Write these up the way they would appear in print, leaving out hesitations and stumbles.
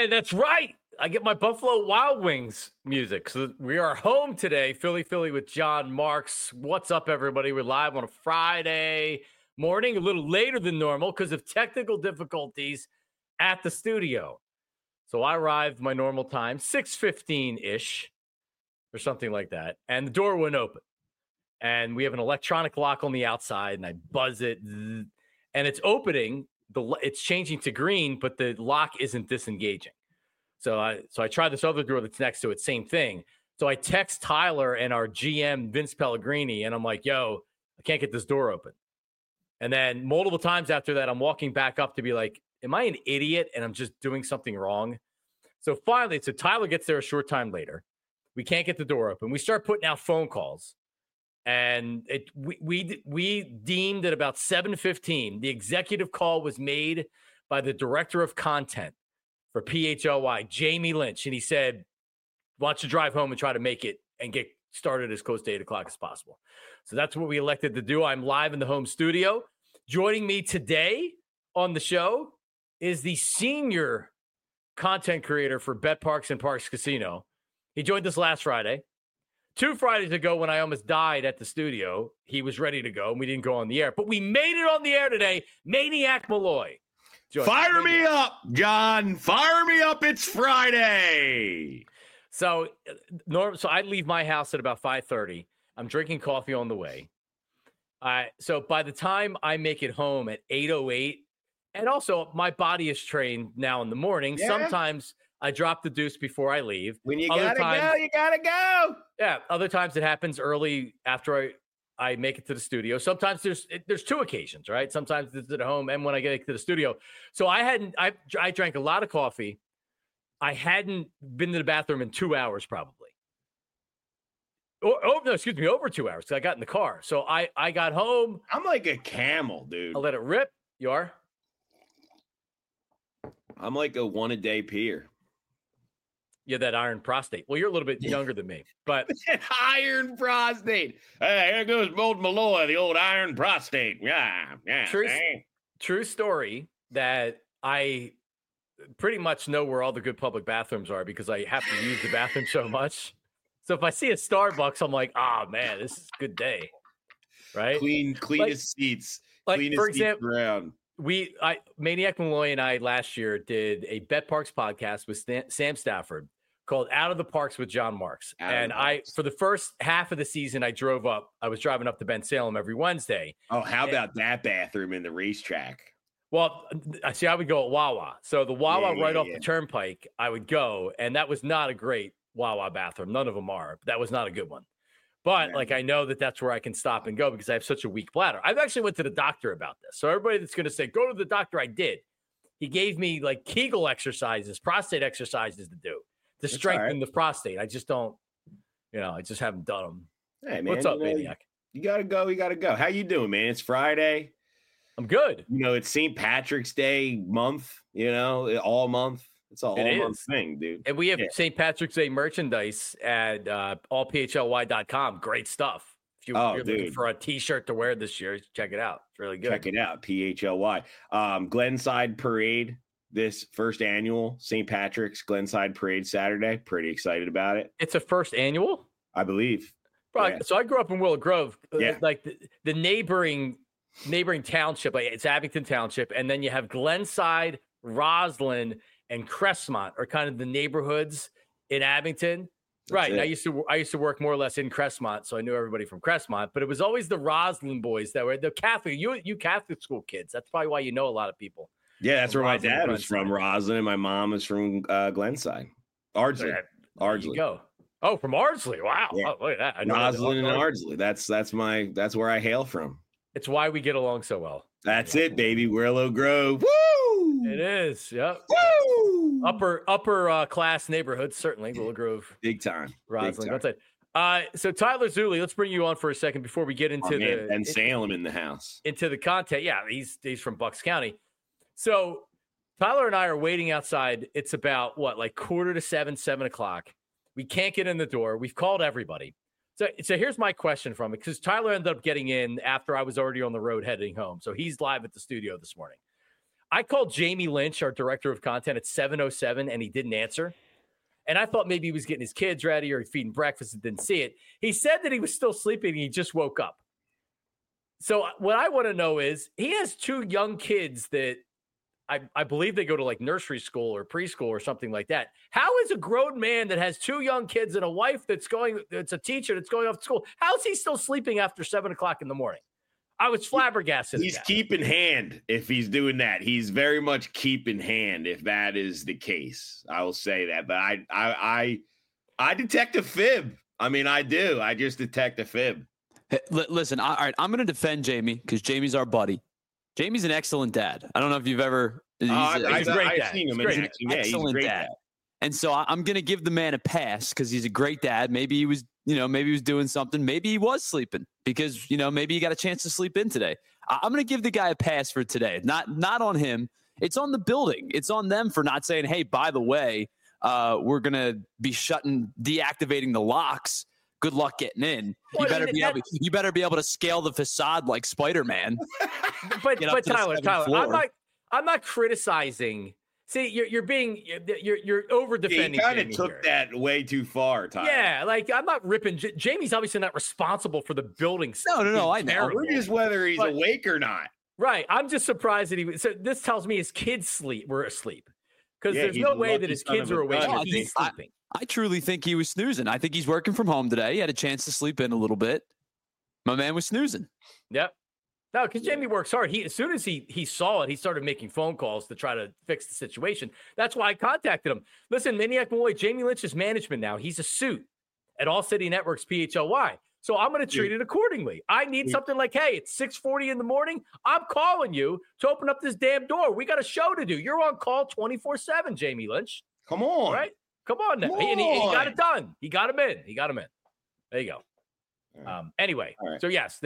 And that's right. I get my Buffalo Wild Wings music. So we are home today, Philly with John Marks. What's up, everybody? We're live on a Friday morning, a little later than normal because of technical difficulties at the studio. So I arrived my normal time, 6:15-ish or something like that. And the door wouldn't open. And we have an electronic lock on the outside, and I buzz it, and it's opening. It's changing to green, but the lock isn't disengaging. So I tried this other door that's next to it, same thing. So I text Tyler and our GM, Vince Pellegrini, and I'm like, yo, I can't get this door open. And then multiple times after that, I'm walking back up to be like, am I an idiot and I'm just doing something wrong? So finally, Tyler gets there a short time later. We can't get the door open. We start putting out phone calls. And we deemed at about 7:15, the executive call was made by the director of content for PHLY, Jamie Lynch. And he said, why don't you drive home and try to make it and get started as close to 8 o'clock as possible. So that's what we elected to do. I'm live in the home studio. Joining me today on the show is the senior content creator for Bet Parks and Parks Casino. He joined us last Friday. 2 Fridays ago, when I almost died at the studio, he was ready to go, and we didn't go on the air. But we made it on the air today. Maniac Malloy. Fire me up, John. Fire me up. It's Friday. So I leave my house at about 5:30. I'm drinking coffee on the way. So by the time I make it home at 8:08, and also my body is trained now in the morning. Yeah. Sometimes I drop the deuce before I leave. When you gotta go, you gotta go. Yeah. Other times it happens early after I make it to the studio. Sometimes there's 2 occasions, right? Sometimes it's at home and when I get to the studio. So I drank a lot of coffee. I hadn't been to the bathroom in 2 hours probably. Over 2 hours because I got in the car. So I got home. I'm like a camel, dude. I let it rip. You are? I'm like a one-a-day peer. Yeah, that iron prostate. Well, you're a little bit younger than me, but iron prostate. Hey, here goes old Malloy, the old iron prostate. Yeah. True story that I pretty much know where all the good public bathrooms are because I have to use the bathroom so much. So if I see a Starbucks, I'm like, oh man, this is a good day, right? Cleanest seats. Like cleanest for example, seats around. Maniac Malloy and I last year did a Bet Parks podcast with Sam Stafford called Out of the Parks with John Marks. For the first half of the season, I was driving up to Ben Salem every Wednesday. Oh, how about that bathroom in the racetrack? Well, I would go at Wawa. So the Wawa off the turnpike, I would go, and that was not a great Wawa bathroom. None of them are. But that was not a good one. But I know that's where I can stop and go because I have such a weak bladder. I've actually went to the doctor about this. So everybody that's going to say, go to the doctor, I did. He gave me like Kegel exercises, prostate exercises to do to strengthen the prostate. I just don't, I just haven't done them. Hey, man. What's up, Maniac? You got to go. You got to go. How you doing, man? It's Friday. I'm good. It's St. Patrick's Day month, all month. It's a whole month thing, dude. And we have St. Patrick's Day merchandise at allphly.com. Great stuff. If you're looking for a T-shirt to wear this year, check it out. It's really good. Check it out, PHLY. Glenside Parade, this first annual St. Patrick's Glenside Parade Saturday. Pretty excited about it. It's a first annual? I believe. Yeah. So I grew up in Willow Grove. Like the neighboring township, like it's Abington Township, and then you have Glenside, Roslyn, and Crestmont are kind of the neighborhoods in Abington. Right. And I used to work more or less in Crestmont, so I knew everybody from Crestmont, but it was always the Roslyn boys that were the Catholic, you Catholic school kids. That's probably why you know a lot of people. Yeah, that's where my dad was from, Roslyn, and my mom was from Glenside. Ardsley. There you go. Oh, from Ardsley. Wow. Yeah. Oh, look at that. Roslyn and Ardsley. That's where I hail from. It's why we get along so well. That's it, baby. Willow Grove. Woo! It is. Yep. Woo! Upper class neighborhoods, certainly. Willow Grove. Big time. Roslyn. Big time. So Tyler Zulli, let's bring you on for a second before we get into and Salem in the house. Into the content. Yeah, he's from Bucks County. So Tyler and I are waiting outside. It's about 6:45, 7 o'clock. We can't get in the door. We've called everybody. So here's my question from it, because Tyler ended up getting in after I was already on the road heading home. So he's live at the studio this morning. I called Jamie Lynch, our director of content, at 7:07, and he didn't answer. And I thought maybe he was getting his kids ready or feeding breakfast and didn't see it. He said that he was still sleeping and he just woke up. So what I want to know is, he has 2 young kids that I believe they go to like nursery school or preschool or something like that. How is a grown man that has 2 young kids and a wife that's a teacher that's going off to school, how is he still sleeping after 7 o'clock in the morning? I was flabbergasted. He's keeping hand if he's doing that. He's very much keeping hand if that is the case. I will say that. But I detect a fib. I mean, I do. I just detect a fib. Hey, listen, all right, I'm going to defend Jamie because Jamie's our buddy. Jamie's an excellent dad. I don't know if you've ever. He's a great dad. I've seen him. Excellent dad. And so I'm going to give the man a pass because he's a great dad. Maybe he was, maybe he was doing something. Maybe he was sleeping because, maybe he got a chance to sleep in today. I'm going to give the guy a pass for today. Not on him. It's on the building. It's on them for not saying, hey, by the way, we're going to be deactivating the locks. Good luck getting in. You better be able to scale the facade like Spider-Man. But Tyler, I'm not criticizing. See, you're over defending. He kind of took that way too far, Tyler. Yeah, like I'm not ripping. Jamie's obviously not responsible for the building. No, I know. We're just whether he's awake or not. Right. I'm just surprised that so this tells me his kids were asleep because there's no way that his kids are awake. He's sleeping. I truly think he was snoozing. I think he's working from home today. He had a chance to sleep in a little bit. My man was snoozing. Yep. No, because Jamie works hard. As soon as he saw it, he started making phone calls to try to fix the situation. That's why I contacted him. Listen, Maniac Malloy, Jamie Lynch's management now. He's a suit at All City Networks PHLY. So I'm going to treat it accordingly. I need something like, hey, it's 6:40 in the morning. I'm calling you to open up this damn door. We got a show to do. You're on call 24/7, Jamie Lynch. Come on. All right? Come on now. And he got it done. He got him in. There you go. Anyway, right. So yes,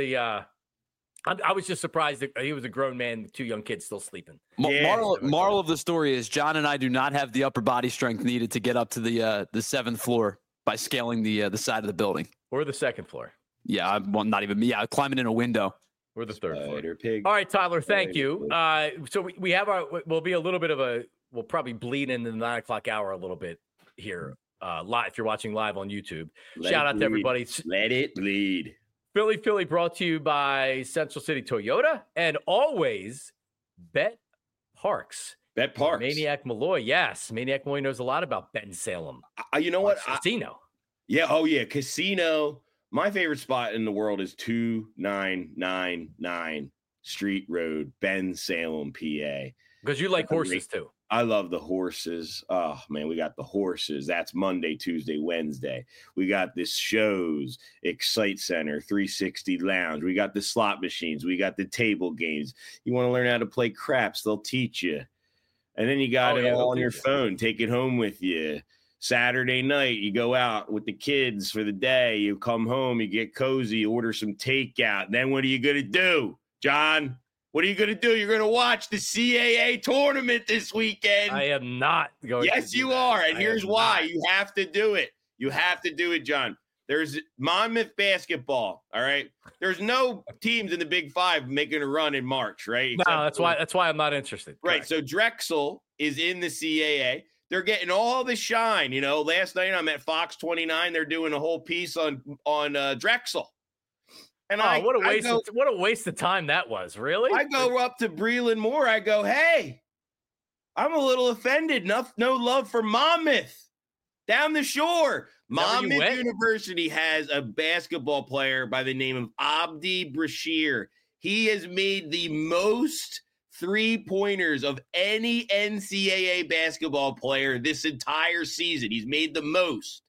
I was just surprised that he was a grown man with 2 young kids still sleeping. Moral of the story is John and I do not have the upper body strength needed to get up to the 7th floor by scaling the side of the building. Or the 2nd floor. Yeah, not even me. Climbing in a window. Or the 3rd floor. Pig. All right, Tyler, thank you. So we have we'll be a little bit of we'll probably bleed into the 9 o'clock hour a little bit here live. If you're watching live on YouTube, shout out to everybody. Let it bleed. Philly brought to you by Central City Toyota and always Bet Parks. Bet Parks. Maniac Malloy. Yes. Maniac Malloy knows a lot about Bensalem. You know what? Casino. Yeah. Oh, yeah. Casino. My favorite spot in the world is 2999 Street Road, Bensalem, PA. Because you like horses too. I love the horses. Oh, man, we got the horses. That's Monday, Tuesday, Wednesday. We got this shows, Excite Center, 360 Lounge. We got the slot machines. We got the table games. You want to learn how to play craps, they'll teach you. And then you got it all on your phone. Take it home with you. Saturday night, you go out with the kids for the day. You come home, you get cozy, you order some takeout. Then what are you going to do, John? What are you going to do? You're going to watch the CAA tournament this weekend. I am not going to. Yes, you are. And here's why. You have to do it. You have to do it, John. There's Monmouth basketball. All right. There's no teams in the Big Five making a run in March, right? No, that's why I'm not interested. Right. Correct. So Drexel is in the CAA. They're getting all the shine. Last night I'm at Fox 29. They're doing a whole piece on Drexel. And what a waste of time that was, really? I go up to Breland Moore. I go, hey, I'm a little offended. No love for Monmouth down the shore. Monmouth University has a basketball player by the name of Abdi Brashir. He has made the most 3-pointers of any NCAA basketball player this entire season. He's made the most.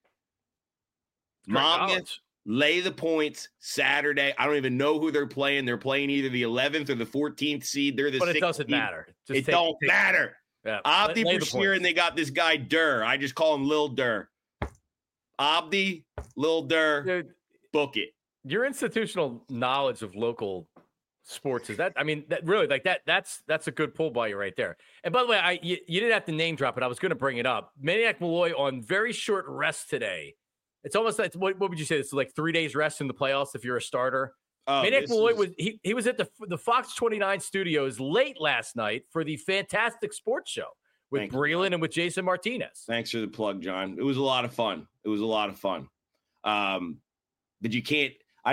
Monmouth. Lay the points Saturday. I don't even know who they're playing. They're playing either the 11th or the 14th seed. They're the 16th. But it doesn't matter. It don't matter. Yeah. Abdi Brashir, and they got this guy Durr. I just call him Lil Durr. Abdi, Lil Durr, dude, book it. Your institutional knowledge of local sports is that? I mean, that really like that. That's a good pull by you right there. And by the way, you didn't have to name drop it. I was going to bring it up. Maniac Malloy on very short rest today. It's almost like what would you say? It's like 3 days rest in the playoffs if you're a starter. Maniac Malloy was at the Fox 29 studios late last night for the Fantastic Sports Show with Breland and with Jason Martinez. Thanks for the plug, John. It was a lot of fun. But you can't.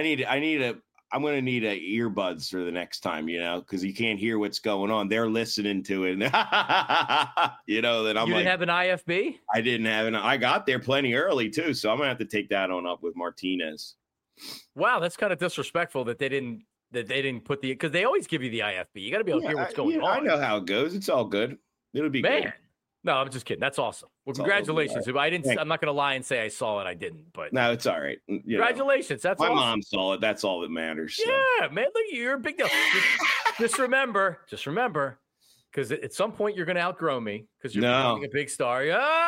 I'm going to need earbuds for the next time, because you can't hear what's going on. They're listening to it. That I'm you didn't have an IFB? I didn't have I got there plenty early too. So I'm going to have to take that on up with Martinez. Wow. That's kind of disrespectful that they didn't put because they always give you the IFB. You got to be able to hear what's going on. I know how it goes. It's all good. It'll be good. No, I'm just kidding. That's awesome. Well, congratulations. Right. I'm not going to lie and say I saw it. I didn't, but no, it's all right. Congratulations. That's my awesome. mom saw it. That's all that matters. So. Yeah, man. Look, you're a big deal. just remember, because at some point you're going to outgrow me because you're becoming a big star.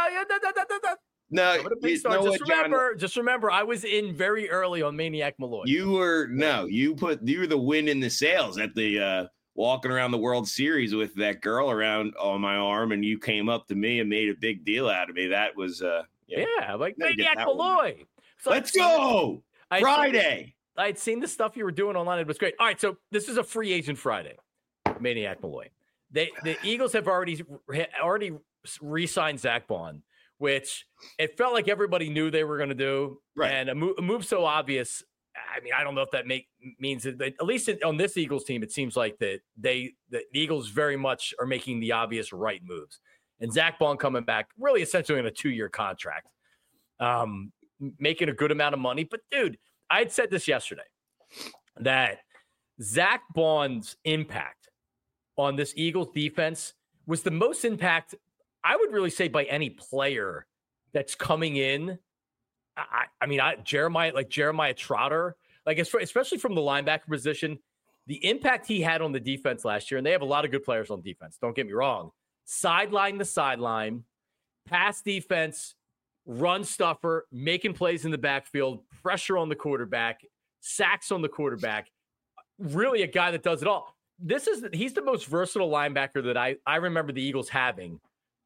No, just remember, I was in very early on Maniac Malloy. You were the wind in the sails at the walking around the World Series with that girl around on my arm, and you came up to me and made a big deal out of me. That was like Maniac Malloy. So let's go Friday. I had seen the stuff you were doing online. It was great. All right, so this is a free agent Friday. Maniac Malloy. The Eagles have already re-signed Zach Bond, which it felt like everybody knew they were going to do. Right. And a move so obvious. I mean, I don't know if that means that at least on this Eagles team, it seems like that the Eagles very much are making the obvious right moves. And Zach Bond coming back, really essentially in a 2-year contract, making a good amount of money. But dude, I had said this yesterday that Zach Bond's impact on this Eagles defense was the most impact, I would really say, by any player that's coming in. I mean, Jeremiah Trotter, especially from the linebacker position, the impact he had on the defense last year, and they have a lot of good players on defense, don't get me wrong, sideline to sideline, pass defense, run stuffer, making plays in the backfield, pressure on the quarterback, sacks on the quarterback, really a guy that does it all. He's the most versatile linebacker that I remember the Eagles having.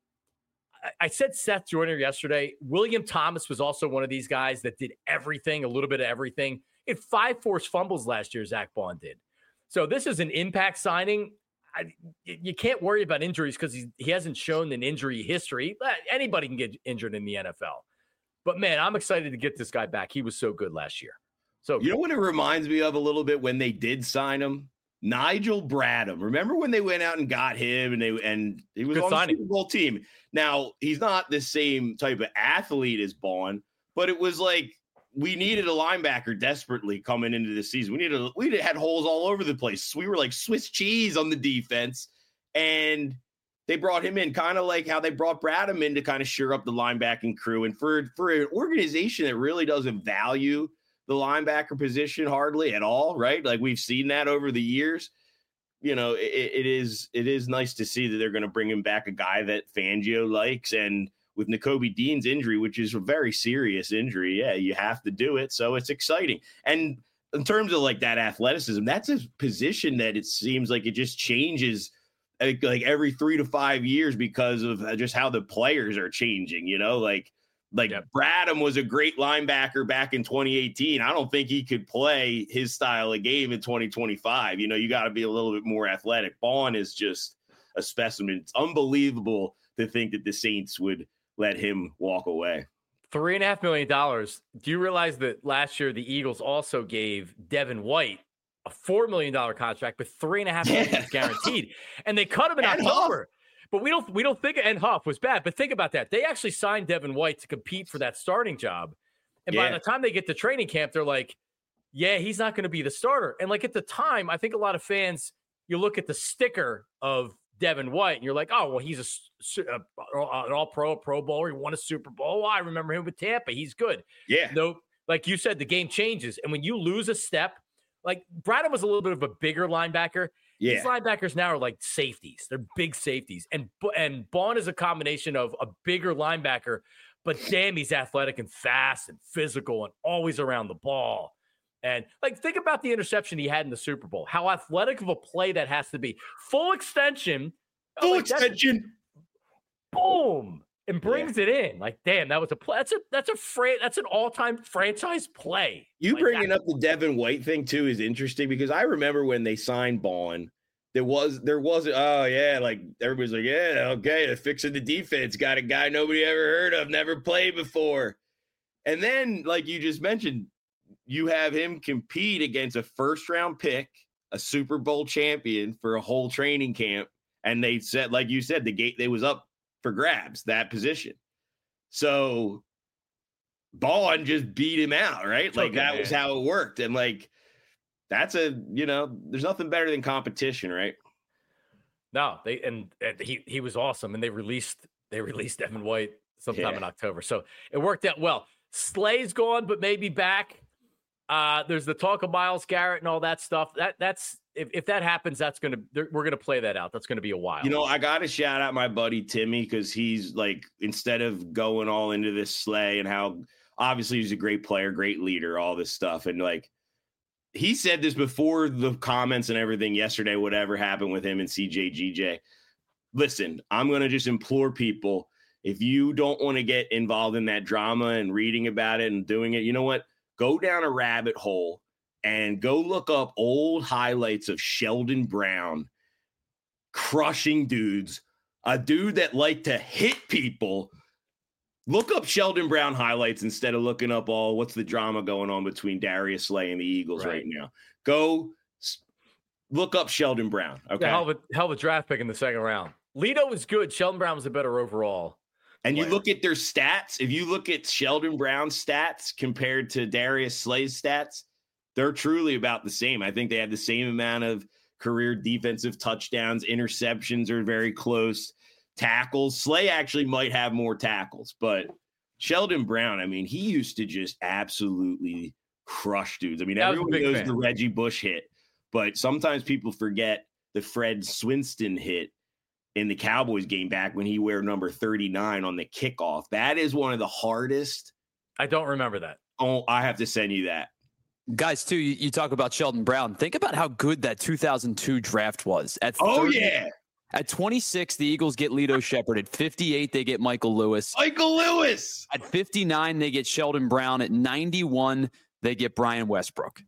I said Seth Joyner yesterday. William Thomas was also one of these guys that did everything, a little bit of everything. He had 5 forced fumbles last year, Zach Bond did. So this is an impact signing. You can't worry about injuries because he hasn't shown an injury history. Anybody can get injured in the NFL. But, man, I'm excited to get this guy back. He was so good last year. So you know what it reminds me of a little bit when they did sign him? Nigel Bradham. Remember when they went out and got him and he was on the Super Bowl team? Now, he's not the same type of athlete as Bond, but it was like we needed a linebacker desperately coming into the season. We had holes all over the place. We were like Swiss cheese on the defense, and they brought him in kind of like how they brought Bradham in to kind of shore up the linebacking crew. And for an organization that really doesn't value the linebacker position hardly at all, right? Like we've seen that over the years. It is nice to see that they're going to bring him back, a guy that Fangio likes. And with Nakobe Dean's injury, which is a very serious injury, you have to do it. So it's exciting. And in terms of like that athleticism, that's a position that it seems like it just changes like every 3 to 5 years because of just how the players are changing, Bradham was a great linebacker back in 2018. I don't think he could play his style of game in 2025. You got to be a little bit more athletic. Bond is just a specimen. It's unbelievable to think that the Saints would let him walk away. $3.5 million. Do you realize that last year the Eagles also gave Devin White a $4 million contract with $3.5 million guaranteed, and they cut him in October. But we don't think, and Huff was bad, but think about that. They actually signed Devin White to compete for that starting job. And by the time they get to training camp, they're like, yeah, he's not going to be the starter. And like at the time, I think a lot of fans, you look at the sticker of Devin White and you're like, oh, well, he's an all-pro, Pro Bowler. He won a Super Bowl. I remember him with Tampa. He's good. Yeah. No, like you said, the game changes. And when you lose a step, like Bradham was a little bit of a bigger linebacker. Yeah. These linebackers now are like safeties. They're big safeties. And Bond is a combination of a bigger linebacker, but damn, he's athletic and fast and physical and always around the ball. And like, think about the interception he had in the Super Bowl. How athletic of a play that has to be. Full extension. Full extension. Boom. and brings it in. Like, damn, that was a play. That's an all-time franchise play. You like bringing up the Devin White thing too is interesting because I remember when they signed Ballin, there wasn't oh yeah, like everybody's like, yeah, okay, they're fixing the defense, got a guy nobody ever heard of, never played before. And then, like you just mentioned, you have him compete against a first-round pick, a Super Bowl champion for a whole training camp. And they said, like you said, they was up for grabs, that position. So Ballin just beat him out, right? Like that was how it worked. And like, that's there's nothing better than competition, right? No, he was awesome. And they released Devin White sometime in October. So it worked out well. Slay's gone, but maybe back. There's the talk of Myles Garrett and all that stuff. That's if that happens, we're gonna play that out. That's gonna be a while. I got to shout out my buddy Timmy because he's like, instead of going all into this Slay and how obviously he's a great player, great leader, all this stuff, and like he said this before the comments and everything yesterday. Whatever happened with him and CJ listen, I'm gonna just implore people. If you don't want to get involved in that drama and reading about it and doing it, you know what? Go down a rabbit hole and go look up old highlights of Sheldon Brown crushing dudes, a dude that liked to hit people. Look up Sheldon Brown highlights instead of looking up what's the drama going on between Darius Slay and the Eagles right now. Go look up Sheldon Brown. Okay. Yeah, hell of a draft pick in the second round. Lito was good. Sheldon Brown was a better overall. And you look at their stats. If you look at Sheldon Brown's stats compared to Darius Slay's stats, they're truly about the same. I think they have the same amount of career defensive touchdowns. Interceptions are very close. Tackles. Slay actually might have more tackles, but Sheldon Brown, I mean, he used to just absolutely crush dudes. I mean, everyone knows the Reggie Bush hit, but sometimes people forget the Fred Swinston hit in the Cowboys game back when he wore number 39 on the kickoff. That is one of the hardest. I don't remember that. Oh, I have to send you that. Guys, too, you talk about Sheldon Brown. Think about how good that 2002 draft was. At 26, the Eagles get Lito Shepherd. At 58, they get Michael Lewis. At 59, they get Sheldon Brown. At 91, they get Brian Westbrook.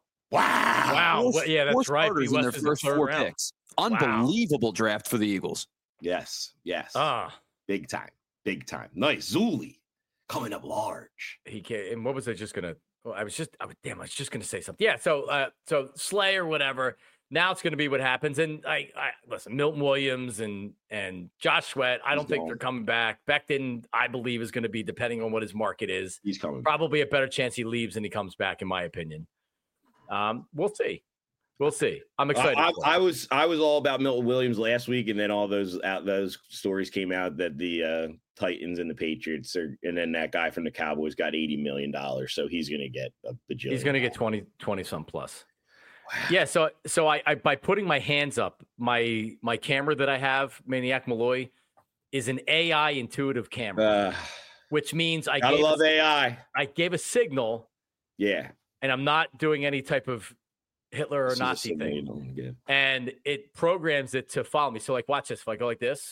Wow. Yeah, that's right. In their first 4 picks. Unbelievable draft for the Eagles. Yes. Big time. Nice. Zuli coming up large. He came, and what was I just gonna? I was just gonna say something. Yeah. So Slay or whatever. Now it's gonna be what happens. And I listen. Milton Williams and Josh Sweat. I don't think they're coming back. Becton, I believe, is going to be, depending on what his market is. He's coming. Probably a better chance he leaves than he comes back, in my opinion. We'll see. I'm excited. I was all about Milton Williams last week, and then all those stories came out that the Titans and the Patriots and then that guy from the Cowboys got $80 million, so he's going to get a bajillion. He's going to get 20 some plus. Wow. Yeah. So I by putting my hands up, my camera that I have, Maniac Malloy, is an AI intuitive camera, which means I love AI. I gave a signal. Yeah. And I'm not doing any type of Hitler or Nazi thing. And it programs it to follow me. So like, watch this. If I go like this.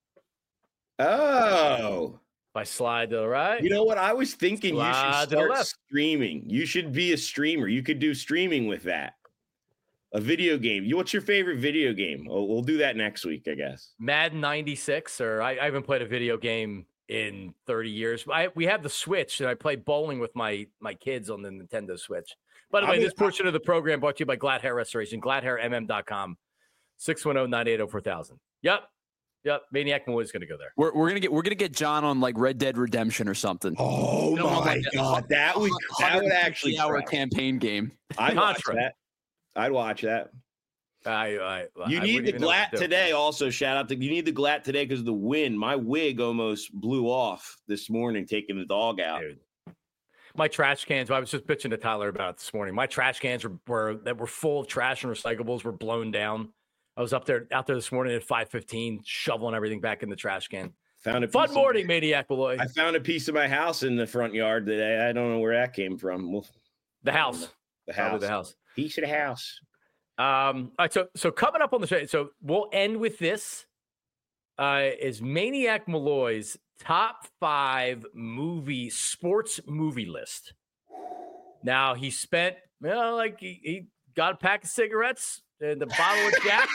Oh. If I slide to the right. You know what? I was thinking you should start streaming. You should be a streamer. You could do streaming with that. A video game. What's your favorite video game? We'll do that next week, I guess. Madden 96, or I haven't played a video game in 30 years. We have the Switch, and I play bowling with my kids on the Nintendo Switch. By the way, this portion of the program brought to you by Glad Hair Restoration, gladhairmm.com, 610-980-4000. Yep. Maniac Malloy is going to go there. We're gonna get John on like Red Dead Redemption or something. Oh my God, that would actually our campaign game. I'd watch that. You need the Glatt today. Also, shout out to you need the Glatt today because of the wind. My wig almost blew off this morning taking the dog out. Dude. My trash cans. I was just bitching to Tyler about it this morning. My trash cans were full of trash and recyclables were blown down. I was out there this morning at 5:15, shoveling everything back in the trash can. Fun morning, Maniac Malloy. I found a piece of my house in the front yard today. I don't know where that came from. The house. Probably the house. Piece of the house. All right, so coming up on the show, so we'll end with this. Is Maniac Malloy's top 5 sports movie list. Now he spent, he got a pack of cigarettes and a bottle of Jack.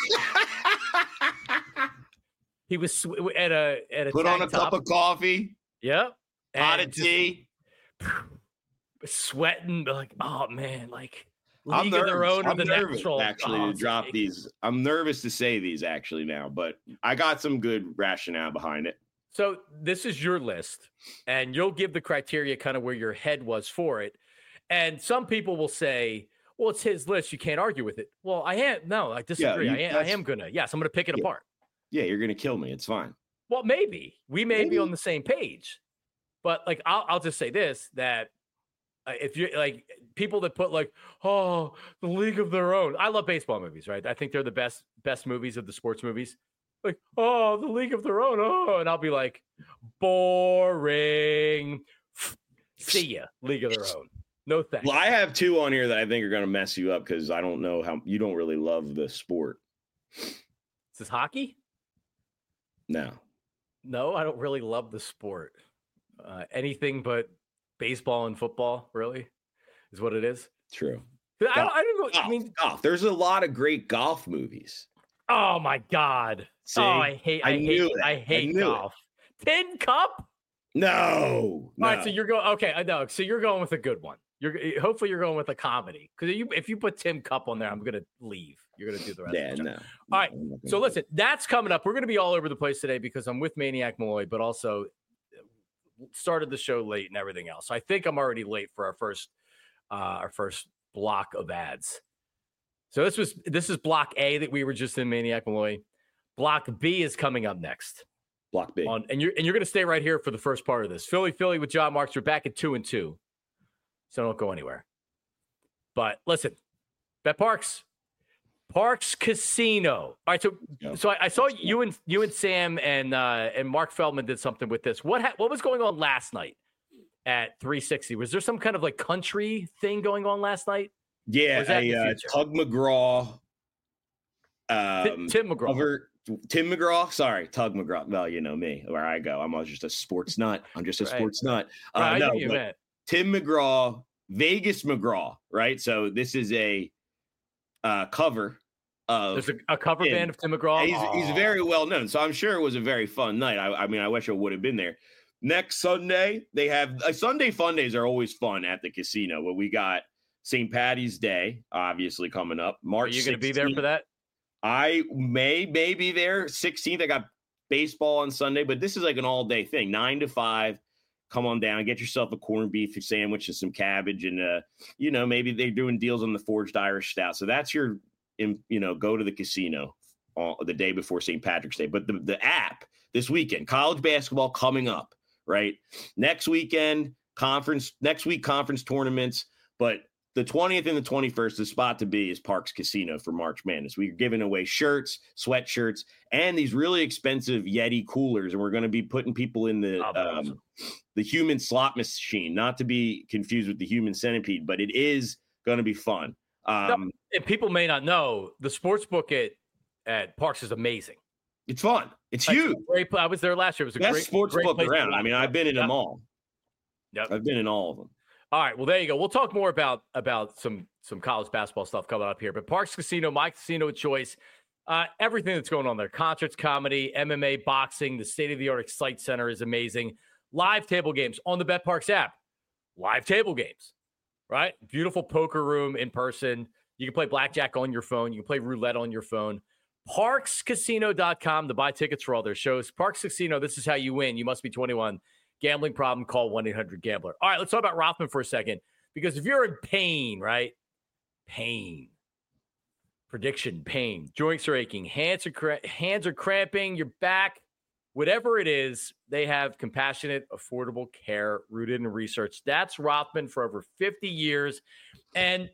He was at a put on a cup of coffee. Yep. Pot of tea. Sweating, like, oh man, like I'm nervous. I'm nervous natural. To drop these. I'm nervous to say these actually now, but I got some good rationale behind it. So this is your list, and you'll give the criteria kind of where your head was for it. And some people will say, well, it's his list. You can't argue with it. Well, I disagree. Yeah, I am going to. Yes, I'm going to pick it apart. Yeah, you're going to kill me. It's fine. Well, maybe. We may be on the same page. But, like, I'll just say this, that if you're, like, people that put, like, oh, the League of Their Own. I love baseball movies, right? I think they're the best movies of the sports movies. Like, oh, the League of Their Own. Oh, and I'll be like, boring. See ya, League of Their Own. No thanks. Well, I have 2 on here that I think are going to mess you up because I don't know how you don't really love the sport. Is this hockey? No, I don't really love the sport. Anything but baseball and football, really, is what it is. True. I don't know. Golf. I mean, golf. There's a lot of great golf movies. Oh my God! See? Oh, I hate golf. Tin Cup? No. All right, so you're going. Okay, I know. So you're going with a good one. Hopefully you're going with a comedy, because if you put Tin Cup on there, I'm gonna leave. You're gonna do the rest. Yeah, of the no. All right. So listen, that's coming up. We're gonna be all over the place today because I'm with Maniac Malloy, but also started the show late and everything else. So I think I'm already late for our first block of ads. So this is block A that we were just in, Maniac Malloy. Block B is coming up next. Block B. And you're going to stay right here for the first part of this. Philly with John Marks. We're back at 2-2. So don't go anywhere. But listen, BetParx Casino. All right, so I saw you and Sam and Mark Feldman did something with this. What was going on last night at 360? Was there some kind of like country thing going on last night? Yeah, Tug McGraw. Tim McGraw. Tim McGraw. Sorry, Tug McGraw. Well, you know me, where I go. I'm just a sports nut. Sports nut. No, but Tim McGraw, Vegas McGraw, right? So this is a cover of. There's a cover band of Tim McGraw. He's very well known, so I'm sure it was a very fun night. I mean, I wish I would have been there. Next Sunday, they have Sunday fun days are always fun at the casino. But we got St. Patty's Day, obviously coming up. March. Are you going to be there for that? I may be there. 16th, I got baseball on Sunday, but this is like an all-day thing, 9 to 5. Come on down, get yourself a corned beef sandwich and some cabbage, and maybe they're doing deals on the Forged Irish Stout. So that's your, go to the casino the day before St. Patrick's Day. But the app this weekend, college basketball coming up, right? Next week, conference tournaments, but the 20th and the 21st, the spot to be is Parx Casino for March Madness. We're giving away shirts, sweatshirts, and these really expensive Yeti coolers, and we're going to be putting people in the human slot machine, not to be confused with the human centipede, but it is going to be fun. And people may not know, the sports book at Parx is amazing. It's fun. It's huge. I was there last year. It was a best sports book around. I mean, I've been in them all. Yep. I've been in all of them. All right, well, there you go. We'll talk more about some college basketball stuff coming up here. But Parx Casino, my casino of choice, everything that's going on there, concerts, comedy, MMA, boxing, the state-of-the-art Excite Center is amazing. Live table games on the BetParx app. Live table games, right? Beautiful poker room in person. You can play blackjack on your phone. You can play roulette on your phone. ParxCasino.com to buy tickets for all their shows. Parx Casino, this is how you win. You must be 21. Gambling problem, call 1-800-GAMBLER. All right, let's talk about Rothman for a second, because if you're in pain, right? Pain. Prediction, pain. Joints are aching. Hands are cramping. Your back. Whatever it is, they have compassionate, affordable care rooted in research. That's Rothman for over 50 years. And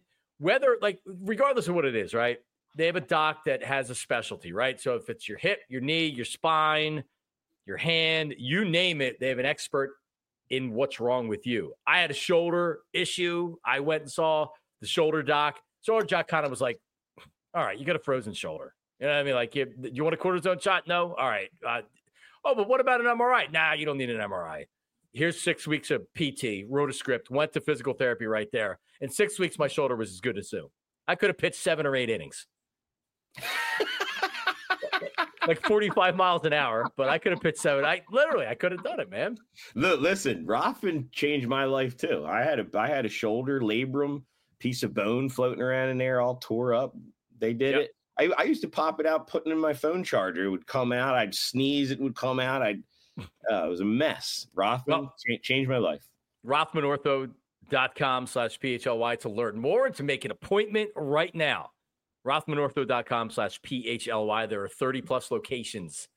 regardless of what it is, right? They have a doc that has a specialty, right? So if it's your hip, your knee, your spine, your hand, you name it, they have an expert in what's wrong with you. I had a shoulder issue. I went and saw the shoulder doc. Shoulder doc kind of was like, all right, you got a frozen shoulder. You know what I mean? Like, you want a cortisone shot? No? All right. Oh, but what about an MRI? Nah, you don't need an MRI. Here's 6 weeks of PT, wrote a script, went to physical therapy right there. In 6 weeks, my shoulder was as good as new. I could have pitched 7 or 8 innings. Like 45 miles an hour, but I could have pitched 7. I could have done it, man. Look, listen, Rothman changed my life too. I had a shoulder labrum, piece of bone floating around in there, all tore up. They did it. I used to pop it out, put it in my phone charger. It would come out. I'd sneeze. It would come out. It was a mess. Rothman changed my life. RothmanOrtho.com/PHLY to learn more and to make an appointment right now. RothmanOrtho.com/PHLY. There are 30 plus locations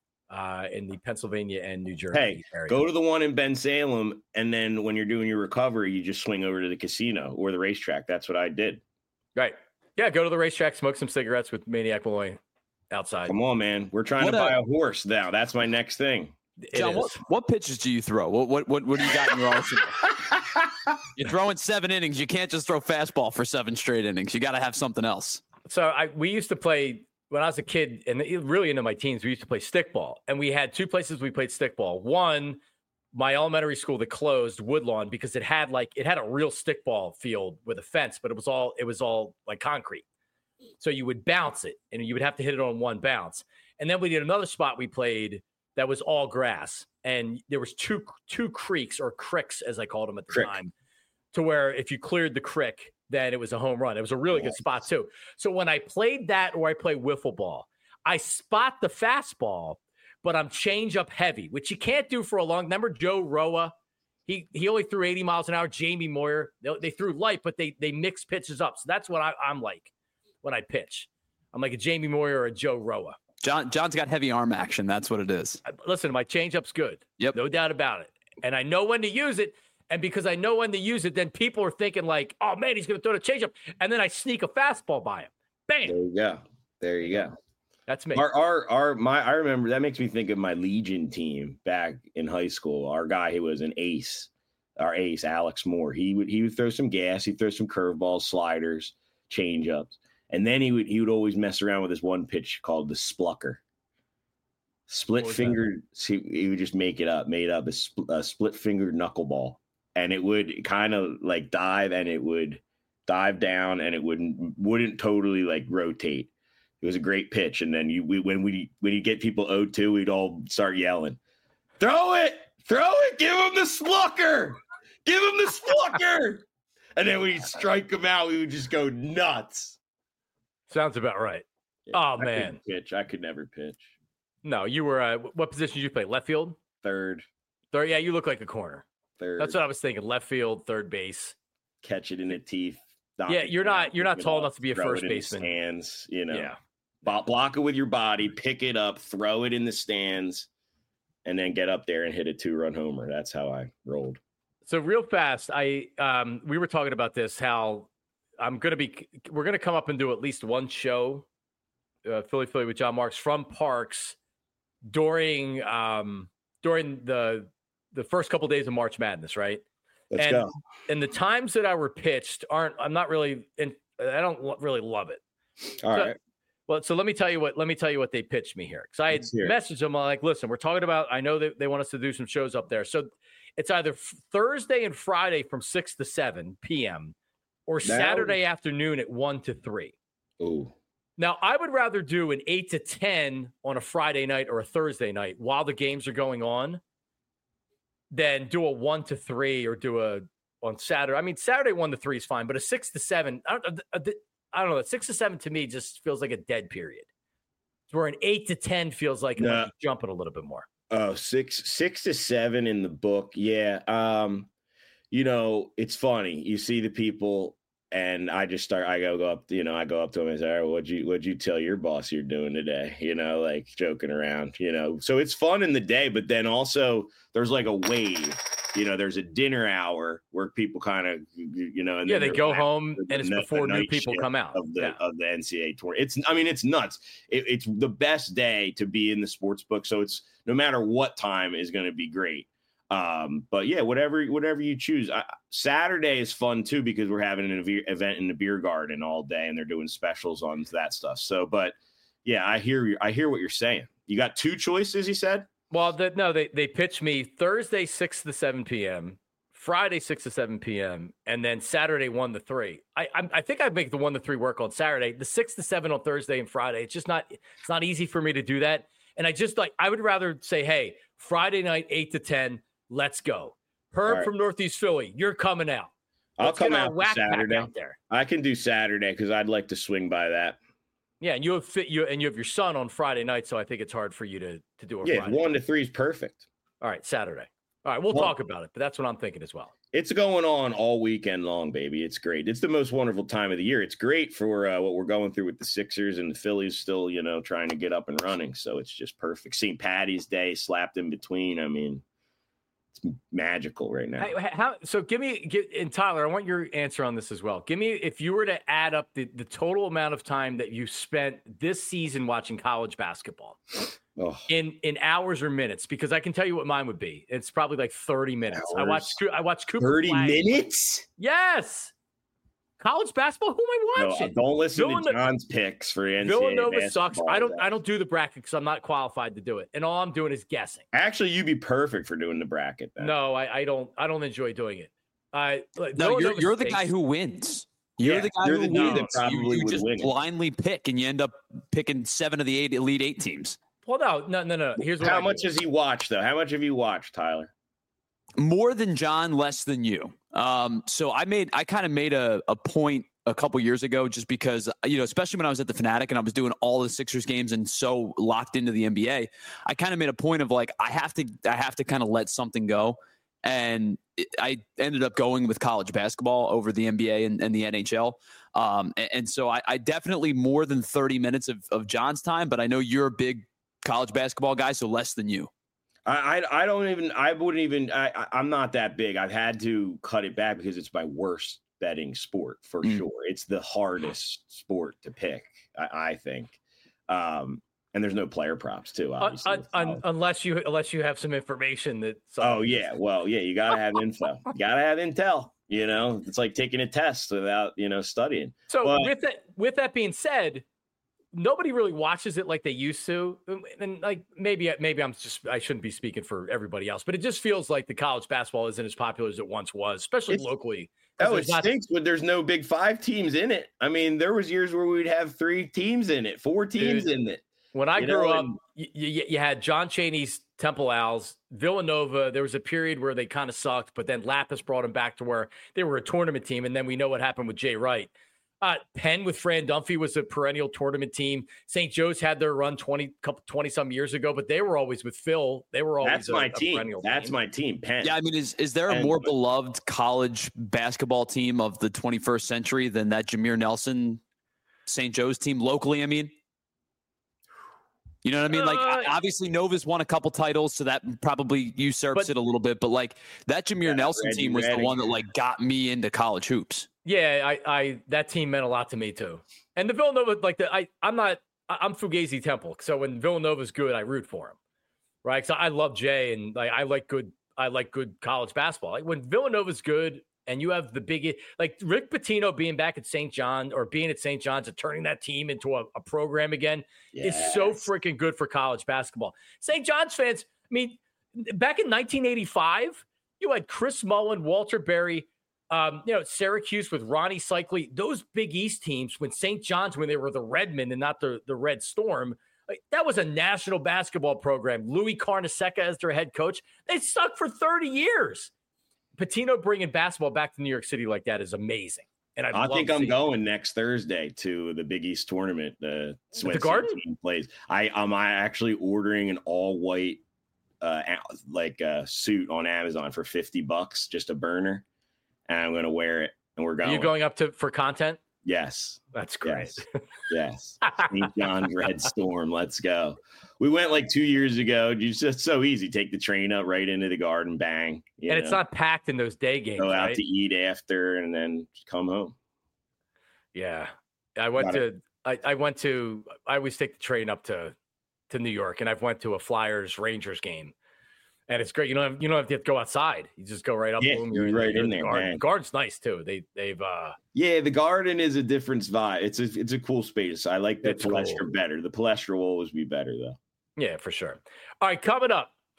in the Pennsylvania and New Jersey area. Go to the one in Bensalem, and then when you're doing your recovery, you just swing over to the casino or the racetrack. That's what I did. Right. Yeah, go to the racetrack, smoke some cigarettes with Maniac Malloy outside. Come on, man. We're trying to buy a horse now. That's my next thing. John, what pitches do you throw? What do you got in your arsenal? You're throwing 7 innings. You can't just throw fastball for 7 straight innings. You got to have something else. So we used to play when I was a kid and really into my teens. We used to play stickball, and we had 2 places we played stickball. One, my elementary school that closed, Woodlawn, because it had a real stickball field with a fence, but it was all like concrete. So you would bounce it, and you would have to hit it on one bounce. And then we did another spot we played that was all grass, and there was two creeks, or cricks as I called them at the time, to where if you cleared the crick, then it was a home run. It was a really good spot too. So when I played that, or I play wiffle ball, I spot the fastball, but I'm change up heavy, which you can't do for a long. Remember Joe Roa? He only threw 80 miles an hour. Jamie Moyer, they threw light, but they mix pitches up. So that's what I'm like when I pitch. I'm like a Jamie Moyer or a Joe Roa. John's got heavy arm action. That's what it is. Listen, my changeup's good. Yep. No doubt about it. And I know when to use it. And because I know when to use it, then people are thinking like, oh, man, he's going to throw the changeup. And then I sneak a fastball by him. Bam. There you go. That's me. I remember that makes me think of my Legion team back in high school. Our guy who was an ace, Alex Moore. He would throw some gas. He'd throw some curveballs, sliders, changeups. And then he would always mess around with this one pitch called the splucker. Split fingered. He would just made up a split fingered knuckleball, and it would kind of like dive, and it would dive down, and it wouldn't totally like rotate. It was a great pitch, and then when you get people 0-2, we'd all start yelling, "Throw it! Give him the splucker! Give him the splucker!" And then when you strike him out, we would just go nuts. Sounds about right. Yeah, man. I could never pitch. No, you were what position did you play? Left field? Third. Yeah, you look like a corner. Third. That's what I was thinking. Left field, third base. Catch it in the teeth. Yeah, you're not tall enough to be a first baseman. Hands, you know. Yeah. Block it with your body, pick it up, throw it in the stands, and then get up there and hit a 2-run homer. That's how I rolled. So real fast, we were talking about this, how we're gonna come up and do at least one show, Philly with John Marks from Parks during the first couple of days of March Madness, right? Let's go. And the times that I were pitched I don't really love it. All right. Well, so let me tell you what they pitched me here. Because I had messaged them like, listen, we're talking about, I know that they want us to do some shows up there. So it's either Thursday and Friday from 6 to 7 p.m. or Saturday afternoon at 1 to 3. Ooh. Now, I would rather do an 8 to 10 on a Friday night or a Thursday night while the games are going on than do a 1 to 3 or on Saturday. I mean, Saturday 1 to 3 is fine, but a 6 to 7, I don't know. 6 to 7 to me just feels like a dead period. Where an 8 to 10 feels like jumping a little bit more. Oh, 6 to 7 in the book. Yeah. It's funny. You see the people, and I go up to them and say, all right, what'd you tell your boss you're doing today? Like joking around, so it's fun in the day, but then also there's like a wave, there's a dinner hour where people kind of, and they go home and it's before new people come out of the NCAA tour. It's nuts. It's the best day to be in the sports book. So it's no matter what time is going to be great. But yeah, whatever you choose. Saturday is fun too, because we're having an event in the beer garden all day and they're doing specials on that stuff. So, but yeah, I hear what you're saying. You got 2 choices, he said? Well, they pitch me Thursday 6 to 7 p.m., Friday 6 to 7 p.m., and then Saturday 1 to 3. I think I'd make the 1 to 3 work on Saturday. The 6 to 7 on Thursday and Friday. It's not easy for me to do that. And I would rather say, hey, Friday night 8 to 10, let's go. Herb from Northeast Philly, you're coming out. I'll come out Saturday. Out there. I can do Saturday because I'd like to swing by that. Yeah, and you have your son on Friday night, so I think it's hard for you to do a Friday. Yeah, 1 to 3 is perfect. All right, Saturday. All right, we'll talk about it, but that's what I'm thinking as well. It's going on all weekend long, baby. It's great. It's the most wonderful time of the year. It's great for what we're going through with the Sixers and the Phillies still, trying to get up and running. So it's just perfect. St. Patty's Day slapped in between. I mean, it's magical right now. So and Tyler, I want your answer on this as well. Give me, if you were to add up the total amount of time that you spent this season watching college basketball in hours or minutes, because I can tell you what mine would be. It's probably like 30 minutes. Hours. I watched Cooper 30 Flag. minutes? Yes. College basketball? Who am I watching? No, don't listen to John's picks for NCAA Villanova sucks. basketball. I don't do the bracket because I'm not qualified to do it, and all I'm doing is guessing. Actually, you'd be perfect for doing the bracket. Then. No, I don't enjoy doing it. No, you're the guy who wins. You're the guy who wins. You just blindly pick, and you end up picking 7 of the 8 Elite 8 teams. Well, no. Here's what how much has he watched, though? How much have you watched, Tyler? More than John, less than you. So I kind of made a point a couple years ago, just because, especially when I was at the Fanatic and I was doing all the Sixers games and so locked into the NBA, I kind of made a point of like, I have to kind of let something go. And I ended up going with college basketball over the NBA and the NHL. And so I definitely more than 30 minutes of John's time, but I know you're a big college basketball guy, so less than you. I'm not that big. I've had to cut it back because it's my worst betting sport for sure. It's the hardest sport to pick, I think. And there's no player props too, obviously. Unless you have some information that. Oh yeah, well yeah, you gotta have info. You gotta have intel. It's like taking a test without studying. So with that being said, nobody really watches it like they used to, and like maybe I shouldn't be speaking for everybody else, but it just feels like the college basketball isn't as popular as it once was, especially locally. It stinks when there's no Big Five teams in it. I mean, there was years where we'd have 3 teams in it, 4 teams in it. When I grew up, you had John Chaney's Temple Owls, Villanova. There was a period where they kind of sucked, but then Lapis brought them back to where they were a tournament team, and then we know what happened with Jay Wright. Penn with Fran Dunphy was a perennial tournament team. St. Joe's had their run 20 some years ago, but they were always with Phil. They were always my team. That's my team. Penn. Yeah, I mean, is there a more beloved college basketball team of the 21st century than that Jameer Nelson St. Joe's team locally? I mean, you know what I mean? Like, obviously Nova's won a couple titles, so that probably usurps it a little bit. But like that Jameer Nelson team was the one that like got me into college hoops. Yeah, I that team meant a lot to me too. And the Villanova, I'm Fugazi Temple, so when Villanova's good, I root for him, right? So I love Jay, and I like good college basketball. Like when Villanova's good, and you have the big, like Rick Pitino being back at St. John or being at St. John's and turning that team into a program again is so freaking good for college basketball. St. John's fans, I mean, back in 1985, you had Chris Mullen, Walter Berry, Syracuse with Ronnie Cycli, those Big East teams when St. John's, when they were the Redmen and not the Red Storm, that was a national basketball program. Louis Carnesecca as their head coach. They sucked for 30 years. Pitino bringing basketball back to New York City like that is amazing. And I think I'm going next Thursday to the Big East tournament. The Garden team plays. I'm actually ordering an all white suit on Amazon for $50, just a burner, and I'm going to wear it. And we're going. Are you going up for content? Yes, that's great. Yes. St. John's Red Storm. Let's go. We went like 2 years ago. It's just so easy. Take the train up right into the Garden, bang. It's not packed in those day games. Go out to eat after and then come home. Yeah. I always take the train up to New York, and I've went to a Flyers Rangers game. And it's great. You don't have to go outside. You just go right up. Yeah, boom, you're right in there, man. The Garden's nice too. They've the Garden is a different vibe. It's a cool space. I like the Palestra better. The Palestra will always be better though. Yeah, for sure. All right, coming up,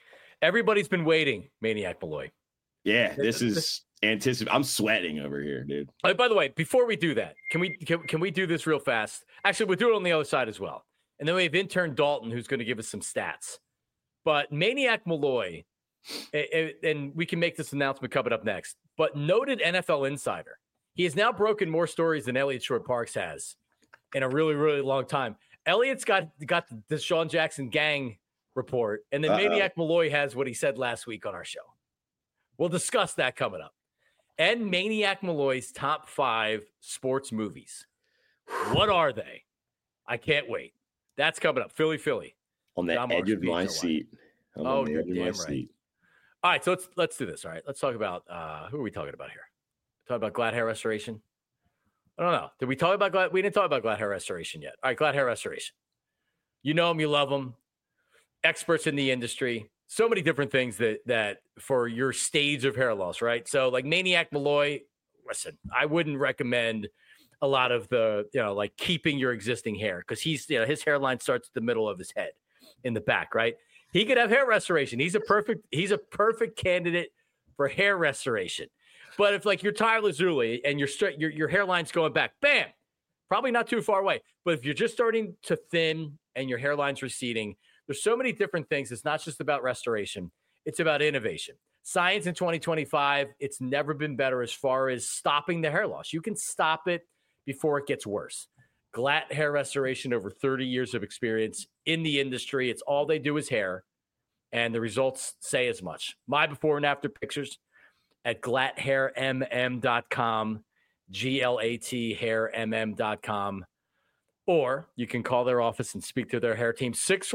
Everybody's been waiting, Maniac Malloy. Yeah, this is I'm sweating over here, dude. By the way, before we do that, can we do this real fast? Actually, we'll do it on the other side as well. And then we have intern Dalton, who's going to give us some stats. But Maniac Malloy, and we can make this announcement coming up next, but noted NFL insider. He has now broken more stories than Elliot Short-Parks has in a really, really long time. Elliot's got the Deshaun Jackson gang report, and then Maniac Malloy has what he said last week on our show. We'll discuss that coming up. And Maniac Malloy's top 5 sports movies. What are they? I can't wait. That's coming up. Philly. On the edge of my seat. Oh, you're damn right. All right, so let's do this. All right, let's talk about who are we talking about here? Talking about Glad Hair Restoration? I don't know. Did we talk about Glad? We didn't talk about Glad Hair Restoration yet. All right, Glad Hair Restoration. You know them, you love them. Experts in the industry. So many different things that for your stage of hair loss, right? So like Maniac Malloy, listen, I wouldn't recommend a lot of the, like keeping your existing hair because he's, his hairline starts at the middle of his head in the back, right? He could have hair restoration. He's a perfect candidate for hair restoration. But if like you're Tyler Zuli and your hairline's going back, bam, probably not too far away. But if you're just starting to thin and your hairline's receding, there's so many different things. It's not just about restoration. It's about innovation. Science in 2025, it's never been better as far as stopping the hair loss. You can stop it before it gets worse. Glatt Hair Restoration, over 30 years of experience in the industry. It's all they do is hair, and the results say as much. My before and after pictures at glatthairmm.com, GLAT hairmm.com. Or you can call their office and speak to their hair team,